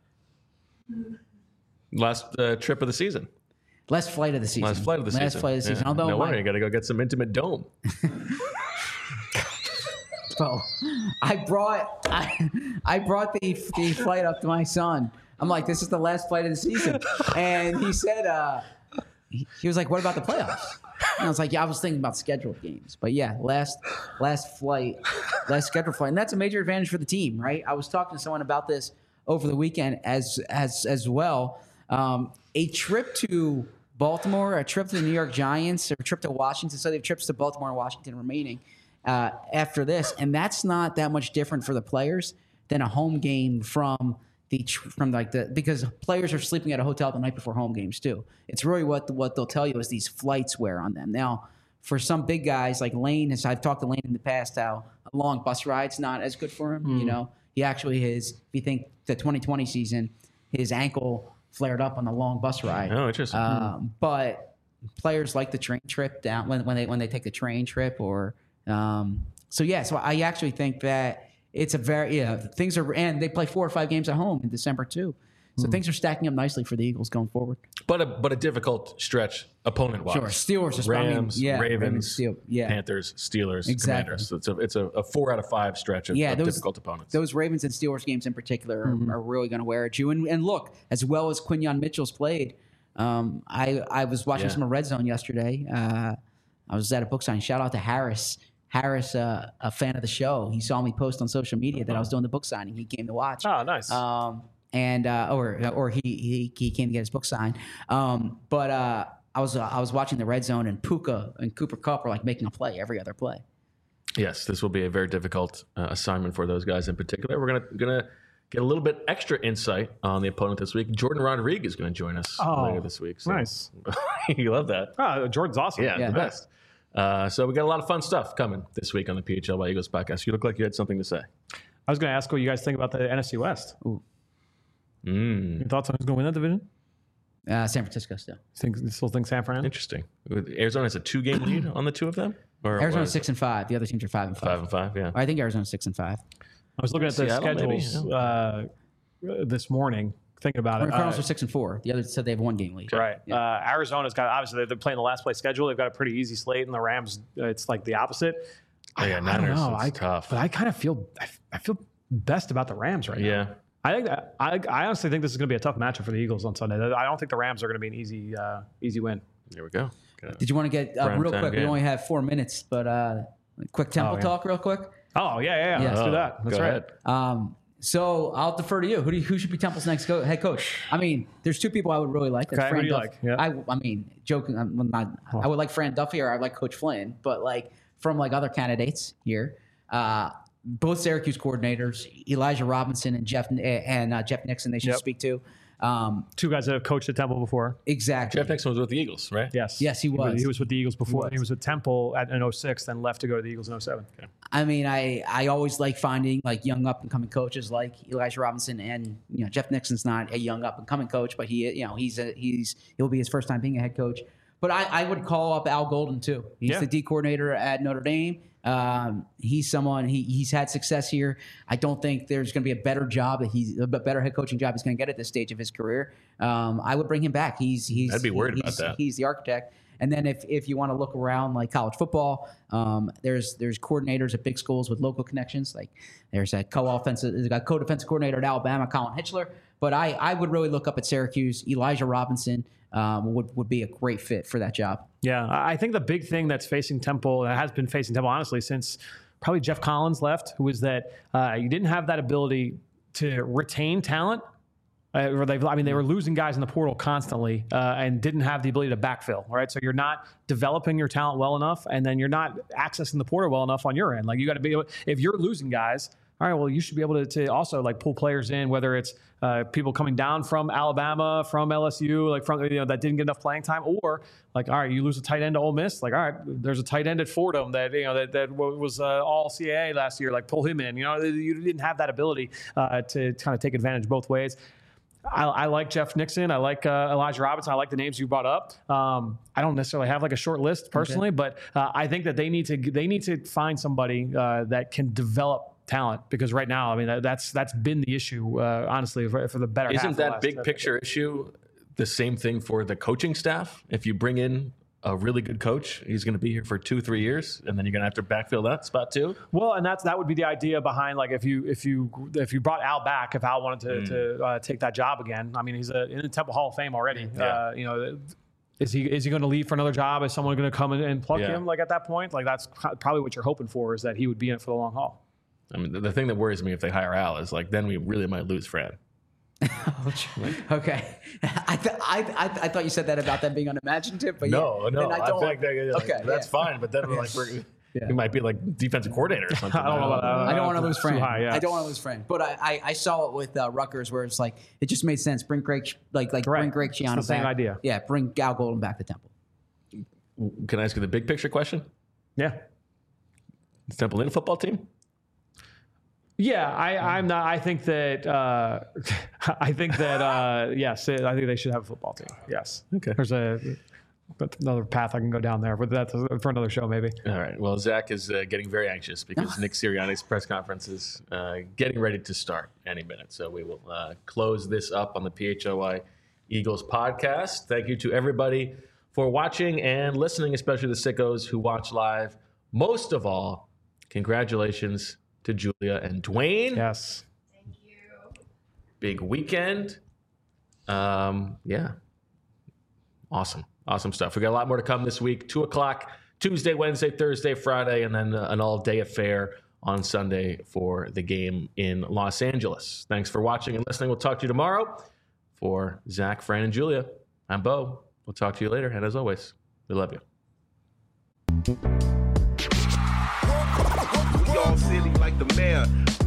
Last uh, trip of the season. Last flight of the season. Last flight of the season. Last flight of the season. Yeah. Although no my, wonder you got to go get some Intimate Dome. So I brought I, I brought the the flight up to my son. I'm like, this is the last flight of the season, and he said, uh, he, he was like, what about the playoffs? And I was like, yeah, I was thinking about scheduled games, but yeah, last last flight, last scheduled flight, and that's a major advantage for the team, right? I was talking to someone about this over the weekend as as as well. Um, a trip to Baltimore, a trip to the New York Giants, or a trip to Washington. So they have trips to Baltimore and Washington remaining uh, after this, and that's not that much different for the players than a home game from the from like the because players are sleeping at a hotel the night before home games too. It's really what what they'll tell you is these flights wear on them. Now, for some big guys like Lane, as I've talked to Lane in the past, how a long bus ride's not as good for him. Mm. You know, he actually is. If you think the twenty twenty season, his ankle flared up on the long bus ride. Oh, interesting. Um, but players like the train trip down when, when they when they take the train trip or um, so yeah. So I actually think that it's a very yeah things are and they play four or five games at home in December too. So mm. things are stacking up nicely for the Eagles going forward. But a but a difficult stretch opponent wise. Sure, Steelers, is Rams, I mean, yeah, Ravens, Ravens Steel, yeah. Panthers, Steelers, exactly. Commanders. So it's a it's a, a four out of five stretch of, yeah, of those, difficult opponents. Those Ravens and Steelers games in particular mm-hmm. are, are really going to wear at you. And, and look, as well as Quinyon Mitchell's played, um, I I was watching yeah. some of Red Zone yesterday. Uh, I was at a book signing. Shout out to Harris. Harris, uh, a fan of the show. He saw me post on social media that I was doing the book signing. He came to watch. Oh, nice. Um, and uh, or or he, he he came to get his book signed. Um, but uh, I was uh, I was watching the Red Zone, and Puka and Cooper Kupp are like making a play every other play. Yes, this will be a very difficult uh, assignment for those guys in particular. We're gonna gonna get a little bit extra insight on the opponent this week. Jordan Rodriguez is going to join us oh, later this week. So. Nice. You love that. Oh, Jordan's awesome. Yeah, yeah. the best. Uh, so we got a lot of fun stuff coming this week on the P H L by Eagles podcast. You look like you had something to say. I was going to ask what you guys think about the N F C West. Ooh. Mm. Your thoughts on who's going to win that division? Uh, San Francisco still. Think, you still think San Fran? Interesting. Arizona has a two-game lead on the two of them? Or Arizona's six and five. The other teams are five and five. Five and five, yeah. I think Arizona's six and five. I was looking at the Seattle, schedules uh, this morning, thinking about the it. The Cardinals uh, are six and four. The others said they have one game lead. Right. Yeah. Uh, Arizona's got obviously they're playing the last place schedule. They've got a pretty easy slate, and the Rams uh, it's like the opposite. Oh, yeah, I, Niners, I don't know. it's I, tough. But I kind of feel I, I feel best about the Rams right yeah. now. I think that, I, I honestly think this is going to be a tough matchup for the Eagles on Sunday. I don't think the Rams are going to be an easy uh, easy win. There we go. Good. Did you want to get uh, real quick? Game. We only have four minutes, but uh, quick tempo oh, yeah. talk, real quick. Oh yeah, yeah, yeah. yeah. Let's oh, do that. That's right. Um, so I'll defer to you. Who do you, who should be Temple's next co- head coach? I mean, there's two people I would really like. That's okay, Fran who do you Duff- like? Yeah. I I mean, joking. I'm not. Oh. I would like Fran Duffy or I would like Coach Flynn, but like from like other candidates here. Uh, both Syracuse coordinators, Elijah Robinson and Jeff and uh, Jeff Nixon, they should yep. speak to. Um, Two guys that have coached at Temple before. Exactly. Jeff Nixon was with the Eagles, right? Yes. Yes, he was. He was, he was with the Eagles before. He was, he was with Temple at, in oh six, then left to go to the Eagles in oh seven. Okay. I mean, I, I always like finding like young up and coming coaches like Elijah Robinson, and you know Jeff Nixon's not a young up and coming coach, but he you know he's a, he's he'll be his first time being a head coach. But I, I would call up Al Golden too. He's yeah. the D coordinator at Notre Dame. Um, he's someone he he's had success here. I don't think there's going to be a better job that he's a better head coaching job he's going to get at this stage of his career. Um, I would bring him back. He's he's I'd be worried he's, about that. He's the architect. And then if, if you want to look around like college football, um, there's there's coordinators at big schools with local connections. Like there's a co-offensive, there's a co-defensive coordinator at Alabama, Colin Hitchler. But I, I would really look up at Syracuse. Elijah Robinson um, would would be a great fit for that job. Yeah, I think the big thing that's facing Temple, that has been facing Temple honestly since probably Jeff Collins left, who was that uh, you didn't have that ability to retain talent. Uh, or they, I mean, they were losing guys in the portal constantly uh, and didn't have the ability to backfill. Right, so you're not developing your talent well enough, and then you're not accessing the portal well enough on your end. Like you got to be able, if you're losing guys. All right, well, you should be able to, to also like pull players in, whether it's uh, people coming down from Alabama, from L S U, like from you know that didn't get enough playing time, or like all right, you lose a tight end to Ole Miss, like all right, there's a tight end at Fordham that you know that that was uh, all C A A last year, like pull him in. You know, you didn't have that ability uh, to kind of take advantage both ways. I, I like Jeff Nixon. I like uh, Elijah Robinson. I like the names you brought up. Um, I don't necessarily have like a short list personally, okay. but uh, I think that they need to they need to find somebody uh, that can develop talent, because right now, I mean, that's that's been the issue, uh, honestly, for, for the better half Isn't of the that last big decade. picture issue the same thing for the coaching staff? If you bring in a really good coach, he's going to be here for two, three years, and then you're going to have to backfill that spot too. Well, and that's that would be the idea behind like if you if you if you brought Al back, if Al wanted to, mm. to uh, take that job again. I mean, he's a, in the Temple Hall of Fame already. Yeah. Uh, you know. Is he is he going to leave for another job? Is someone going to come in and plug yeah. him like at that point? Like that's probably what you're hoping for, is that he would be in it for the long haul. I mean, the, the thing that worries me if they hire Al is like, then we really might lose Fran. Okay, I, th- I, I I thought you said that about them being unimaginative, but no, yeah, no, I I don't. think that, like, okay, that's yeah. fine. But then we're like, we're, Yeah. he might be like defensive coordinator or something. I don't know about that. I don't want to lose Fran. High, yeah. I don't want to lose Fran. But I, I, I saw it with uh, Rutgers, where it's like it just made sense. Bring Greg, like like Right. bring Greg Schiano It's the same back. idea. Yeah, bring Al Golden back to Temple. Can I ask you the big picture question? Yeah. Is Temple in a football team? Yeah, I, I'm not. I think that. Uh, I think that. Uh, yes, I think they should have a football team. Yes. Okay. There's a another path I can go down there, but that's for another show maybe. All right. Well, Zach is uh, getting very anxious because Nick Sirianni's press conference is uh, getting ready to start any minute. So we will uh, close this up on the P H L Y Eagles podcast. Thank you to everybody for watching and listening, especially the sickos who watch live. Most of all, congratulations to Julia and Dwayne. Yes. Thank you. Big weekend. Um, yeah. Awesome. Awesome stuff. We got a lot more to come this week. Two o'clock, Tuesday, Wednesday, Thursday, Friday, and then uh, an all-day affair on Sunday for the game in Los Angeles. Thanks for watching and listening. We'll talk to you tomorrow. For Zach, Fran, and Julia, I'm Bo. We'll talk to you later. And as always, we love you. We all silly like the mayor.